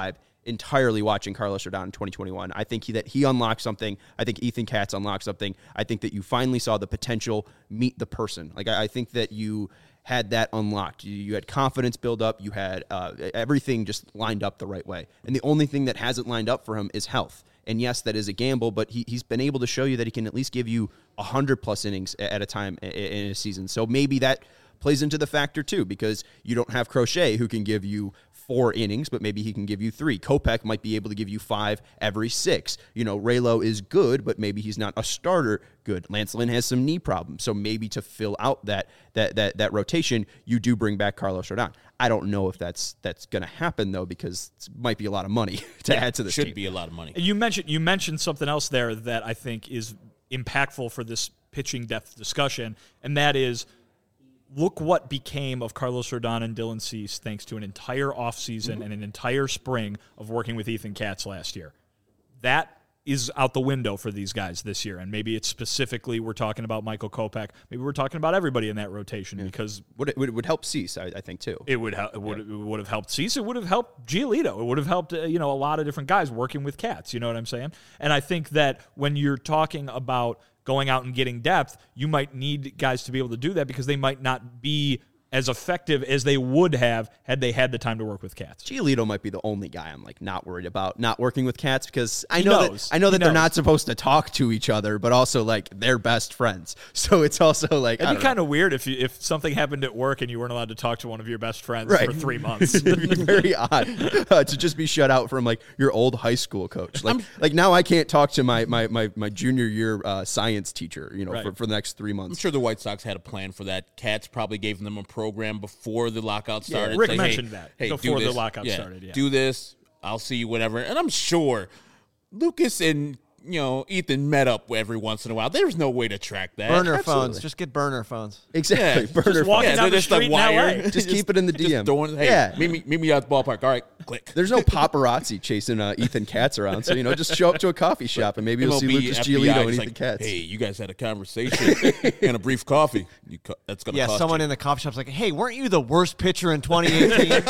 entirely watching Carlos Rodon in twenty twenty-one. I think he, that he unlocked something. I think Ethan Katz unlocked something. I think that you finally saw the potential meet the person. Like, I, I think that you had that unlocked. You, you had confidence build up. You had uh, everything just lined up the right way. And the only thing that hasn't lined up for him is health. And yes, that is a gamble, but he, he's been able to show you that he can at least give you one hundred plus innings at a time in a season. So maybe that plays into the factor too, because you don't have Crochet who can give you four innings, but maybe he can give you three. Kopech might be able to give you five every six. You know, Raylo is good, but maybe he's not a starter good. Lance Lynn has some knee problems, so maybe to fill out that that that that rotation, you do bring back Carlos Rodon. I don't know if that's that's going to happen though, because it might be a lot of money to yeah, add to the should team. be a lot of money. You mentioned you mentioned something else there that I think is impactful for this pitching depth discussion, and that is, look what became of Carlos Rodon and Dylan Cease thanks to an entire offseason mm-hmm. and an entire spring of working with Ethan Katz last year. That is out the window for these guys this year, and maybe it's specifically we're talking about Michael Kopech. Maybe we're talking about everybody in that rotation yeah. because would it, would, it would help Cease, I, I think too. It would ha- it would yeah. it would have helped Cease. It would have helped Giolito. It would have helped uh, you know a lot of different guys working with Katz. You know what I'm saying? And I think that when you're talking about going out and getting depth, you might need guys to be able to do that because they might not be as effective as they would have had they had the time to work with Katz. Giolito might be the only guy I'm like not worried about not working with Katz, because I he know knows. that I know he that knows. they're not supposed to talk to each other, but also like they're best friends. So it's also like it'd be kind of weird if you, if something happened at work and you weren't allowed to talk to one of your best friends right. for three months. It'd be very odd uh, to just be shut out from like your old high school coach. Like I'm, like now I can't talk to my my my, my junior year uh, science teacher, you know, right. for, for the next three months. I'm sure the White Sox had a plan for that. Katz probably gave them a program before the lockout started. Yeah, Rick Say, mentioned hey, that hey, before the lockout yeah, started. Yeah. Do this. I'll see you whenever. And I'm sure Lucas and you know Ethan met up every once in a while. There's no way to track that. Burner Absolutely. phones. Just get burner phones. Exactly. Yeah, burner just walking phones. down yeah, the just street like in L wire. A. Just keep it in the D M. Throwing, hey, yeah. meet me, meet me at the ballpark. All right, click. There's no paparazzi chasing uh, Ethan Katz around, so you know, just show up to a coffee shop and maybe you'll see Lucas F B I Giolito and is Ethan like, Katz. hey, you guys had a conversation and a brief coffee. You co- that's gonna Yeah, cost someone you. in the coffee shop's like, hey, weren't you the worst pitcher in twenty eighteen?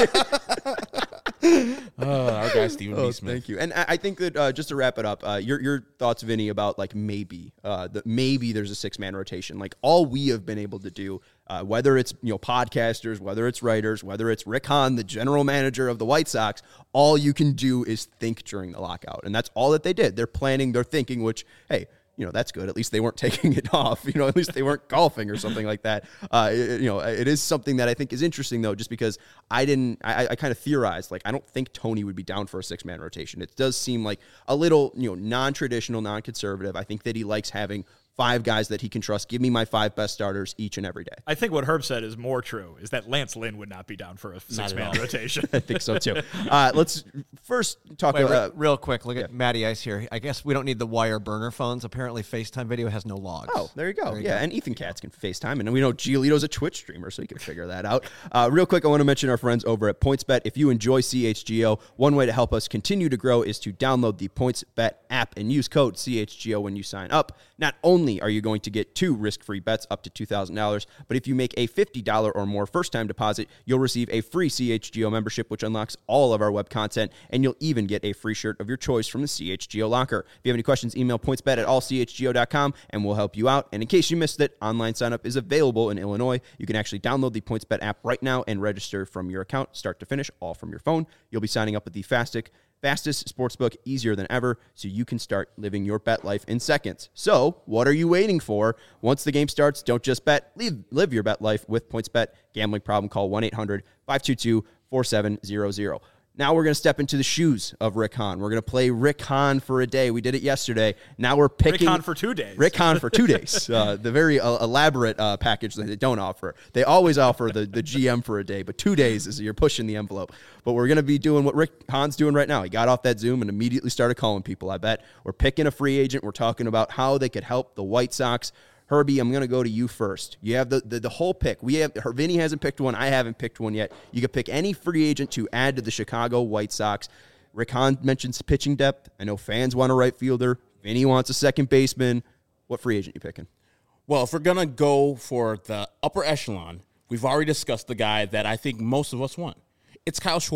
uh, our guy Stephen Oh, B. Smith. thank you. And I I think that uh, just to wrap it up, uh, your your thoughts, Vinny, about like maybe uh, that maybe there's a six man rotation. Like all we have been able to do, uh, whether it's you know podcasters, whether it's writers, whether it's Rick Hahn, the general manager of the White Sox, all you can do is think during the lockout, and that's all that they did. They're planning, they're thinking. Which hey. You know, that's good. At least they weren't taking it off. You know, at least they weren't golfing or something like that. Uh, it, you know, it is something that I think is interesting, though, just because I didn't, I, I kind of theorized, like, I don't think Tony would be down for a six-man rotation. It does seem like a little, you know, non-traditional, non-conservative. I think that he likes having five guys that he can trust. Give me my five best starters each and every day. I think what Herb said is more true, is that Lance Lynn would not be down for a six-man rotation. I think so, too. Uh, let's first talk Wait, about... re- real quick, look at Matty Ice here. I guess we don't need the wire burner phones. Apparently, FaceTime video has no logs. Oh, there you go. There you yeah, go. and Ethan Katz can FaceTime, and we know Giolito's a Twitch streamer, so you can figure that out. Uh, real quick, I want to mention our friends over at PointsBet. If you enjoy C H G O, one way to help us continue to grow is to download the PointsBet app and use code C H G O when you sign up. Not only are you going to get two risk-free bets up to two thousand dollars, but if you make a fifty dollars or more first-time deposit, you'll receive a free C H G O membership, which unlocks all of our web content, and you'll even get a free shirt of your choice from the C H G O locker. If you have any questions, email pointsbet at all c h g o dot com, and we'll help you out. And in case you missed it, online sign-up is available in Illinois. You can actually download the PointsBet app right now and register from your account, start to finish, all from your phone. You'll be signing up with the fastest Fastest sportsbook, easier than ever, so you can start living your bet life in seconds. So, what are you waiting for? Once the game starts, don't just bet. Live, live your bet life with PointsBet. Gambling problem, call one eight hundred five two two four seven zero zero. Now we're going to step into the shoes of Rick Hahn. We're going to play Rick Hahn for a day. We did it yesterday. Now we're picking... Rick Hahn for two days. Rick Hahn for two days. Uh, the very uh, elaborate uh, package that they don't offer. They always offer the, the G M for a day, but two days is you're pushing the envelope. But we're going to be doing what Rick Hahn's doing right now. He got off that Zoom and immediately started calling people, I bet. We're picking a free agent. We're talking about how they could help the White Sox. Herbie, I'm going to go to you first. You have the, the, the whole pick. We have Vinny hasn't picked one. I haven't picked one yet. You could pick any free agent to add to the Chicago White Sox. Rick Hahn mentions pitching depth. I know fans want a right fielder. Vinny wants a second baseman. What free agent you picking? Well, if we're going to go for the upper echelon, we've already discussed the guy that I think most of us want. It's Kyle Schwarber.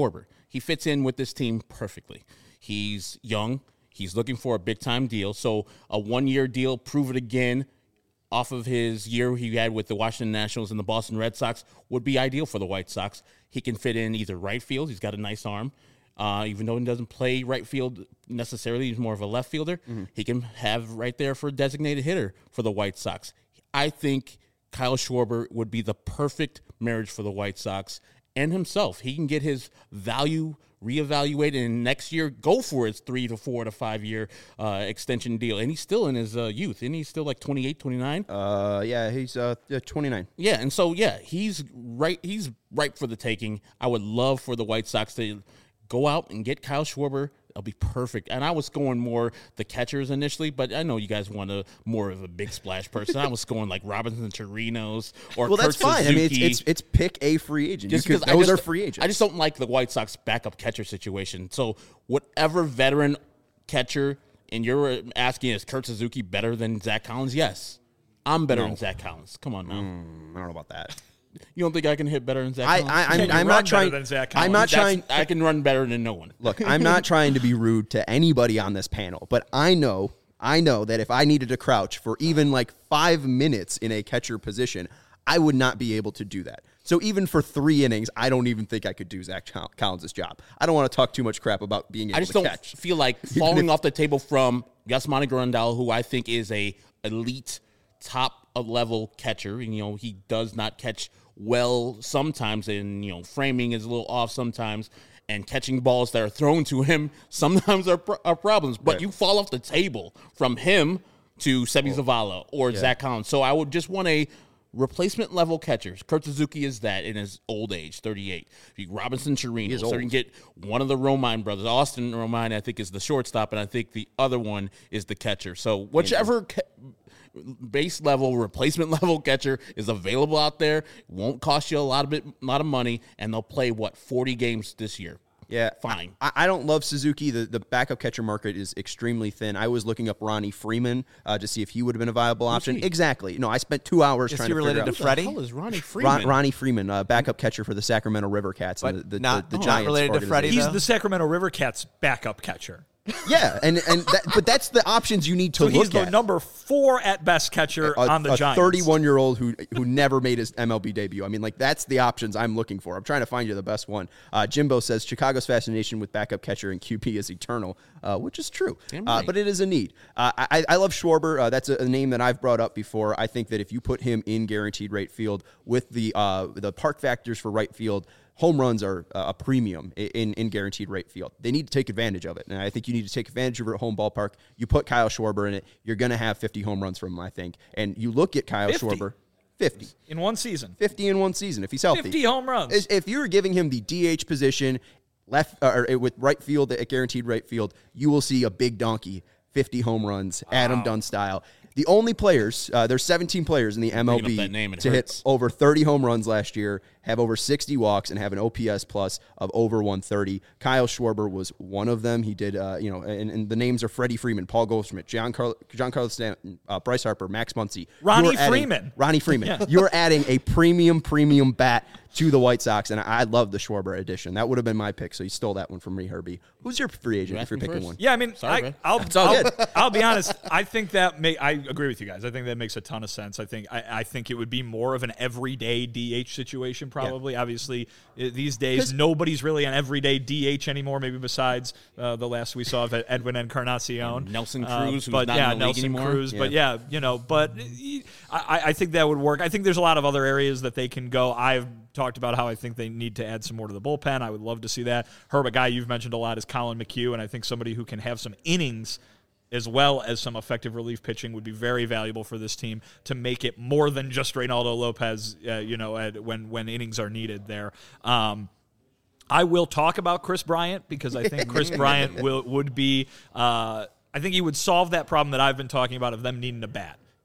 he fits in with this team perfectly. He's young. He's looking for a big-time deal. So a one-year deal, prove it again, off of his year he had with the Washington Nationals and the Boston Red Sox would be ideal for the White Sox. He can fit in either right field. He's got a nice arm. Uh, even though he doesn't play right field necessarily, he's more of a left fielder. Mm-hmm. He can have right there for a designated hitter for the White Sox. I think Kyle Schwarber would be the perfect marriage for the White Sox and himself. He can get his value reevaluated, and next year go for his three to four to five year uh, extension deal. And he's still in his uh, youth. And he's still like twenty-eight, twenty-nine. Uh, yeah, he's uh, twenty-nine. Yeah, and so, yeah, he's right. He's ripe for the taking. I would love for the White Sox to go out and get Kyle Schwarber. It'll be perfect. And I was going more the catchers initially, but I know you guys want a more of a big splash person. I was going like Robinson Chirinos or well, Kurt that's fine. Suzuki. I mean, it's, it's it's pick a free agent. Just because those I just, are free agents. I just don't like the White Sox backup catcher situation. So whatever veteran catcher, and you're asking, is Kurt Suzuki better than Zach Collins? Yes. I'm better no. than Zach Collins. Come on now. Mm, I don't know about that. You don't think I can hit better than Zach I, Collins? I, I'm, Can you I'm run not trying. better than Zach I'm not Collins? trying. I can run better than no one. Look, I'm not trying to be rude to anybody on this panel, but I know, I know that if I needed to crouch for even like five minutes in a catcher position, I would not be able to do that. So even for three innings, I don't even think I could do Zach Collins' job. I don't want to talk too much crap about being able I just to don't catch. feel like falling off the table from Yasmani Grandal, who I think is a elite top level catcher. And, you know, he does not catch well sometimes, and, you know, framing is a little off sometimes, and catching balls that are thrown to him sometimes are, are problems. But Right. you fall off the table from him to Sebi Zavala or yeah. Zach Collins. So I would just want a replacement level catchers. Kurt Suzuki is that in his old age, thirty-eight. Robinson Chirinos, so you can get one of the Romine brothers. Austin Romine, I think, is the shortstop, and I think the other one is the catcher. So whichever ca- base level, replacement level catcher is available out there, won't cost you a lot of bit, lot of money, and they'll play what forty games this year. Yeah, fine. I, I don't love Suzuki. The the backup catcher market is extremely thin. I was looking up Ronnie Freeman uh, to see if he would have been a viable option. Exactly. No, I spent two hours is trying he to related figure to out. Freddie? Who the hell is Ronnie Freeman? Ron, Ronnie Freeman, uh, backup catcher for the Sacramento River Cats, but and the, the, not, the, the not Giants. related to Freddie. He's though? the Sacramento River Cats backup catcher. Yeah, and and that, but that's the options you need to So look he's the at. number four at best catcher a, on the a Giants. thirty-one-year-old who who never made his M L B debut. I mean, like, that's the options I'm looking for. I'm trying to find you the best one. Uh, Jimbo says Chicago's fascination with backup catcher and Q P is eternal, uh, which is true. Uh, right. but it is a need. Uh, I, I love Schwarber. Uh, that's a, a name that I've brought up before. I think that if you put him in guaranteed right field with the uh, the park factors for right field, home runs are a premium in, in guaranteed right field. They need to take advantage of it. And I think you need to take advantage of it at home ballpark. You put Kyle Schwarber in it, you're going to have fifty home runs from him, I think. And you look at Kyle fifty Schwarber, fifty. In one season. fifty in one season if he's healthy. fifty home runs. Is- If you were giving him the D H position, left or with right field at guaranteed right field, you will see a big donkey, fifty home runs, Adam Dunn style. The only players, uh, there's seventeen players in the M L Bringing B up that name, it to hurts. hit over thirty home runs last year, have over sixty walks, and have an O P S plus of over one thirty. Kyle Schwarber was one of them. He did, uh, you know, and, and the names are Freddie Freeman, Paul Goldschmidt, John Carl, John Carlos Stanton, uh, Bryce Harper, Max Muncy. Ronnie You are adding- Freeman. Ronnie Freeman. Yeah. You're adding a premium, premium bat to the White Sox, and I, I love the Schwarber edition. That would have been my pick, so you stole that one from me, Herbie. Who's your free agent You if you're asked me picking first. one? Yeah, I mean, Sorry, I, man. I'll, all I'll, good. I'll be honest. I think that may, I agree with you guys. I think that makes a ton of sense. I think I, I think it would be more of an everyday D H situation, probably. Obviously, i- these days nobody's really an everyday D H anymore. Maybe besides uh, the last we saw of Edwin Encarnacion, Nelson Uh, Cruz, who's but not yeah, in the league Nelson anymore. Cruz. But yeah, you know, but I, I think that would work. I think there's a lot of other areas that they can go. I've talked about how I think they need to add some more to the bullpen. I would love to see that. Herb, a guy you've mentioned a lot is Colin McHugh, and I think somebody who can have some innings as well as some effective relief pitching would be very valuable for this team to make it more than just Reynaldo Lopez, uh, you know, at, when, when innings are needed there. Um, I will talk about Chris Bryant because I think Chris Bryant will would be uh, – I think he would solve that problem that I've been talking about of them needing a bat.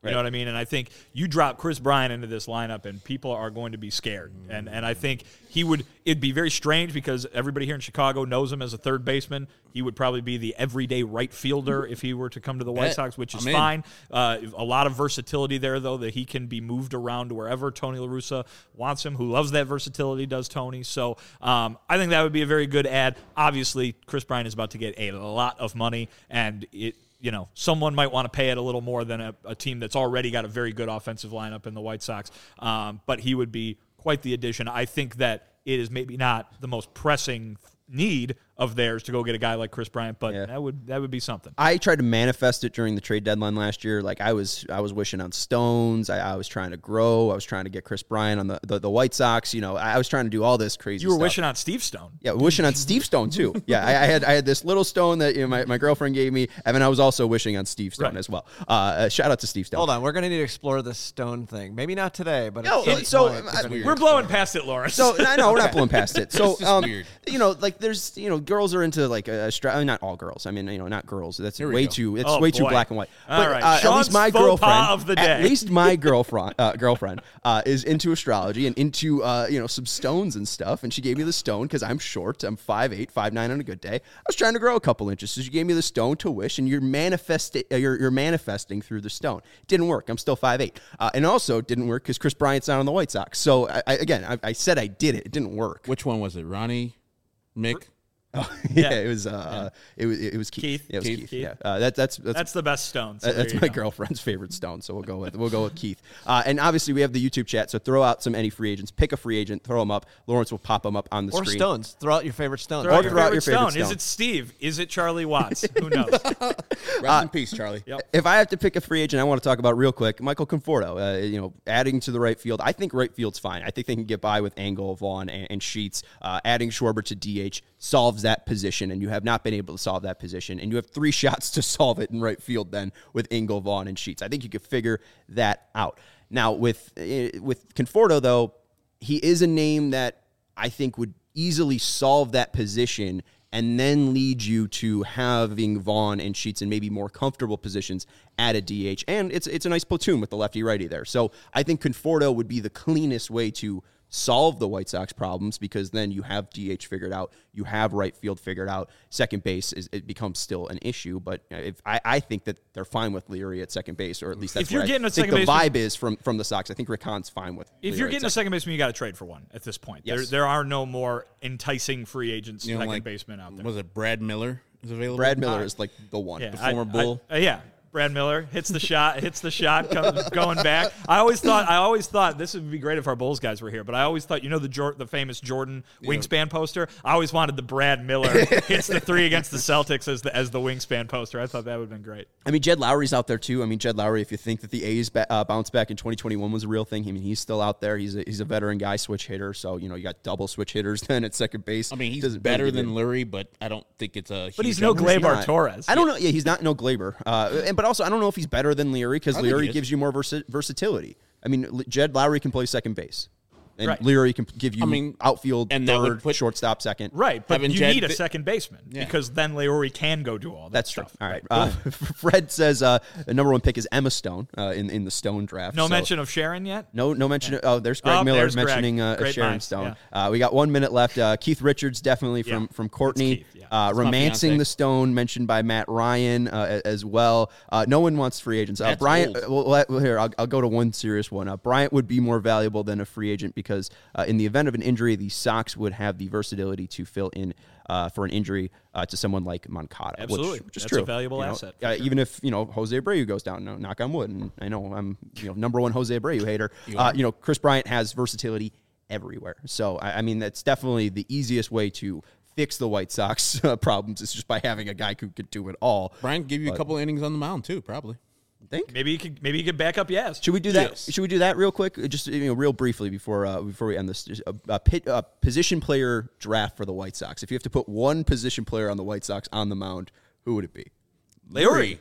You right. know what I mean? And I think you drop Chris Bryant into this lineup, and people are going to be scared. And and I think he would. It'd be very strange because everybody here in Chicago knows him as a third baseman. He would probably be the everyday right fielder if he were to come to the White Bet. Sox, which is I'm fine. Uh, a lot of versatility there, though, that he can be moved around to wherever Tony La Russa wants him, who loves that versatility, does Tony. So um, I think that would be a very good ad. Obviously, Chris Bryant is about to get a lot of money, and it. You know, someone might want to pay it a little more than a, a team that's already got a very good offensive lineup in the White Sox. Um, but he would be quite the addition. I think that it is maybe not the most pressing need of theirs to go get a guy like Chris Bryant, but yeah. that would that would be something. I tried to manifest it during the trade deadline last year. Like I was I was wishing on Stones. I, I was trying to grow. I was trying to get Chris Bryant on the, the, the White Sox. You know, I was trying to do all this crazy You were stuff. wishing on Steve Stone. Yeah, wishing on Steve Stone too. Yeah, I, I had I had this little stone that you know, my, my girlfriend gave me, and then I was also wishing on Steve Stone right. as well. Uh, uh, shout out to Steve Stone. Hold on, we're going to need to explore this Stone thing. Maybe not today, but no, it's so point, uh, we're, we're blowing past it, Lawrence. So no, no, we're not blowing past it. So um, weird. you know, like there's you know, girls are into like a stra- not all girls. I mean, you know, not girls. That's way go. too. It's oh, way boy. too black and white. All but right. uh, at least my girlfriend, of the day. at least my girlfriend, uh, girlfriend uh, is into astrology and into uh, you know some stones and stuff. And she gave me the stone because I'm short. I'm five eight, five nine on a good day. I was trying to grow a couple inches, so she gave me the stone to wish, and you're manifesting. Uh, you're, you're manifesting through the stone. It didn't work. I'm still five eight, uh, and also it didn't work because Chris Bryant's not on the White Sox. So I, I, again, I, I said I did it. It didn't work. Which one was it? Ronnie, Mick. Oh, yeah, yeah, it was. Uh, yeah. It was. It was Keith. Keith. Yeah, it was Keith. Keith. Keith. Yeah, uh, that, that's that's that's the best stone. So that's my go. girlfriend's favorite stone. So we'll go with we'll go with Keith. Uh, and obviously we have the YouTube chat. So throw out some any free agents. Pick a free agent. Throw them up. Lawrence will pop them up on the or screen. Or stones. Throw out your favorite stone. Throw or out your throw favorite out your favorite stone. stone. Is it Steve? Is it Charlie Watts? Who knows? Rest uh, in peace, Charlie. Yep. If I have to pick a free agent, I want to talk about real quick. Michael Conforto. Uh, you know, adding to the right field. I think right field's fine. I think they can get by with Engel, Vaughn, and, and Sheets. Uh, adding Schwarber to D H solves that position, and you have not been able to solve that position, and you have three shots to solve it in right field then with Engel, Vaughn, and Sheets. I think you could figure that out. Now, with uh, with Conforto, though, he is a name that I think would easily solve that position and then lead you to having Vaughn and Sheets in maybe more comfortable positions at a D H. And it's it's a nice platoon with the lefty-righty there. So I think Conforto would be the cleanest way to solve the White Sox problems because then you have D H figured out, you have right field figured out, second base is it becomes still an issue. But if I, I think that they're fine with Leary at second base, or at least that's if you're what getting I a think second the baseman, vibe is from from the Sox. I think Rick Hahn's fine with. If Leary you're getting at a second baseman, you got to trade for one at this point. Yes. There there are no more enticing free agents You know, second like, baseman out there. Was it Brad Miller is available? Brad Miller Uh, is like the one. Yeah, The I- former I- Bull. uh, yeah. Brad Miller hits the shot, hits the shot, comes, going back. I always thought, I always thought this would be great if our Bulls guys were here. But I always thought, you know, the Jor- the famous Jordan wingspan poster. I always wanted the Brad Miller hits the three against the Celtics as the as the wingspan poster. I thought that would have been great. I mean, Jed Lowry's out there too. I mean, Jed Lowry, if you think that the A's ba- uh, bounce back in twenty twenty-one was a real thing, I mean, he's still out there. He's a, he's a veteran guy, switch hitter. So, you know, you got double switch hitters then at second base. I mean, he's Doesn't better really than do- Lurie, but I don't think it's a. But huge he's no upgrade. Gleyber not. Torres. I don't know. Yeah, he's not no Glaber. Uh, and but also, I don't know if he's better than Leary because I think he Leary is. gives you more versi- versatility. I mean, L- Jed Lowry can play second base, and Right. Leary can give you I mean, outfield, and that would third, put- shortstop, second. Right, but Having you Jed need a fi- second baseman Yeah. because then Leroy can go do all that That's true. stuff. All right. Uh, Fred says uh, the number one pick is Emma Stone uh, in in the Stone draft. No so- mention of Sharon yet? No, no mention. Of, oh, there's Greg Oh, Miller there's Greg. mentioning uh, Great Sharon minds, Stone. Uh, we got one minute left. Uh, Keith Richards definitely from Yeah, from Courtney. Keith, yeah. uh, It's my romancing fiancé. the Stone mentioned by Matt Ryan uh, as well. Uh, no one wants free agents. Uh, That's Bryant. old. Uh, well, let- well, here I'll, I'll go to one serious one. Uh, Bryant would be more valuable than a free agent because uh, in the event of an injury, the Sox would have the versatility to fill in uh, for an injury uh, to someone like Moncada. Absolutely. which, which is That's true. a valuable You know, asset, for Uh, sure. Even if you know Jose Abreu goes down, no, knock on wood, and I know I'm you know number one Jose Abreu hater. Uh, you know Chris Bryant has versatility everywhere, so I, I mean that's definitely the easiest way to fix the White Sox uh, problems is just by having a guy who could do it all. Brian give you But- a couple innings on the mound too, probably. Think. Maybe you could maybe you could back up Yaz. Should we do that? Yes. Should we do that real quick? Just you know, real briefly before uh, before we end this. Just a, a, pit, a position player draft for the White Sox. If you have to put one position player on the White Sox on the mound, who would it be? Leroy.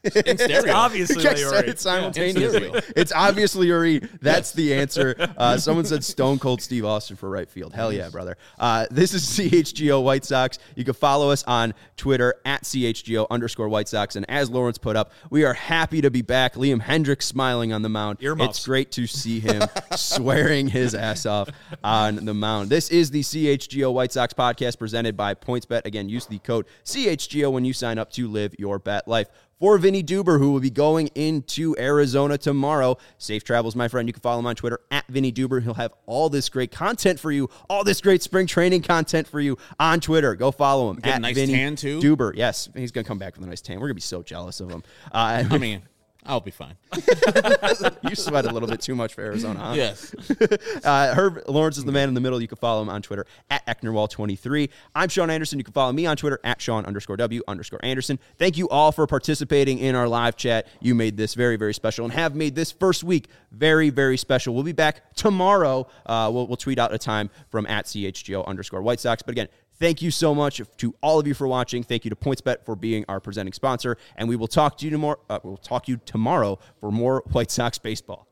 In stereo. Obviously, I they said are. it simultaneously. Yeah, It's obviously Uri. That's the answer. Uh, someone said Stone Cold Steve Austin for right field. Hell yeah, brother. Uh, this is C H G O White Sox. You can follow us on Twitter at C H G O underscore White Sox. And as Lawrence put up, we are happy to be back. Liam Hendriks smiling on the mound. Earmuffs. It's great to see him swearing his ass off on the mound. This is the C H G O White Sox podcast presented by PointsBet. Again, use the code C H G O when you sign up to live your bet life. For Vinny Duber, who will be going into Arizona tomorrow. Safe travels, my friend. You can follow him on Twitter at Vinny Duber. He'll have all this great content for you, all this great spring training content for you on Twitter. Go follow him Get a at nice Vinny tan, too? Duber. Yes, he's going to come back with a nice tan. We're going to be so jealous of him. Uh, I mean, I'll be fine. you sweat a little bit too much for Arizona, huh? Yes. uh, Herb Lawrence is the man in the middle. You can follow him on Twitter at Ecknerwall twenty-three. I'm Sean Anderson. You can follow me on Twitter at Sean underscore W underscore Anderson. Thank you all for participating in our live chat. You made this very, very special and have made this first week very, very special. We'll be back tomorrow. Uh, we'll, we'll tweet out a time from at C H G O underscore White Sox. But again, thank you so much to all of you for watching. Thank you to PointsBet for being our presenting sponsor. And we will talk to you tomorrow. Uh, we'll talk to you tomorrow for more White Sox baseball.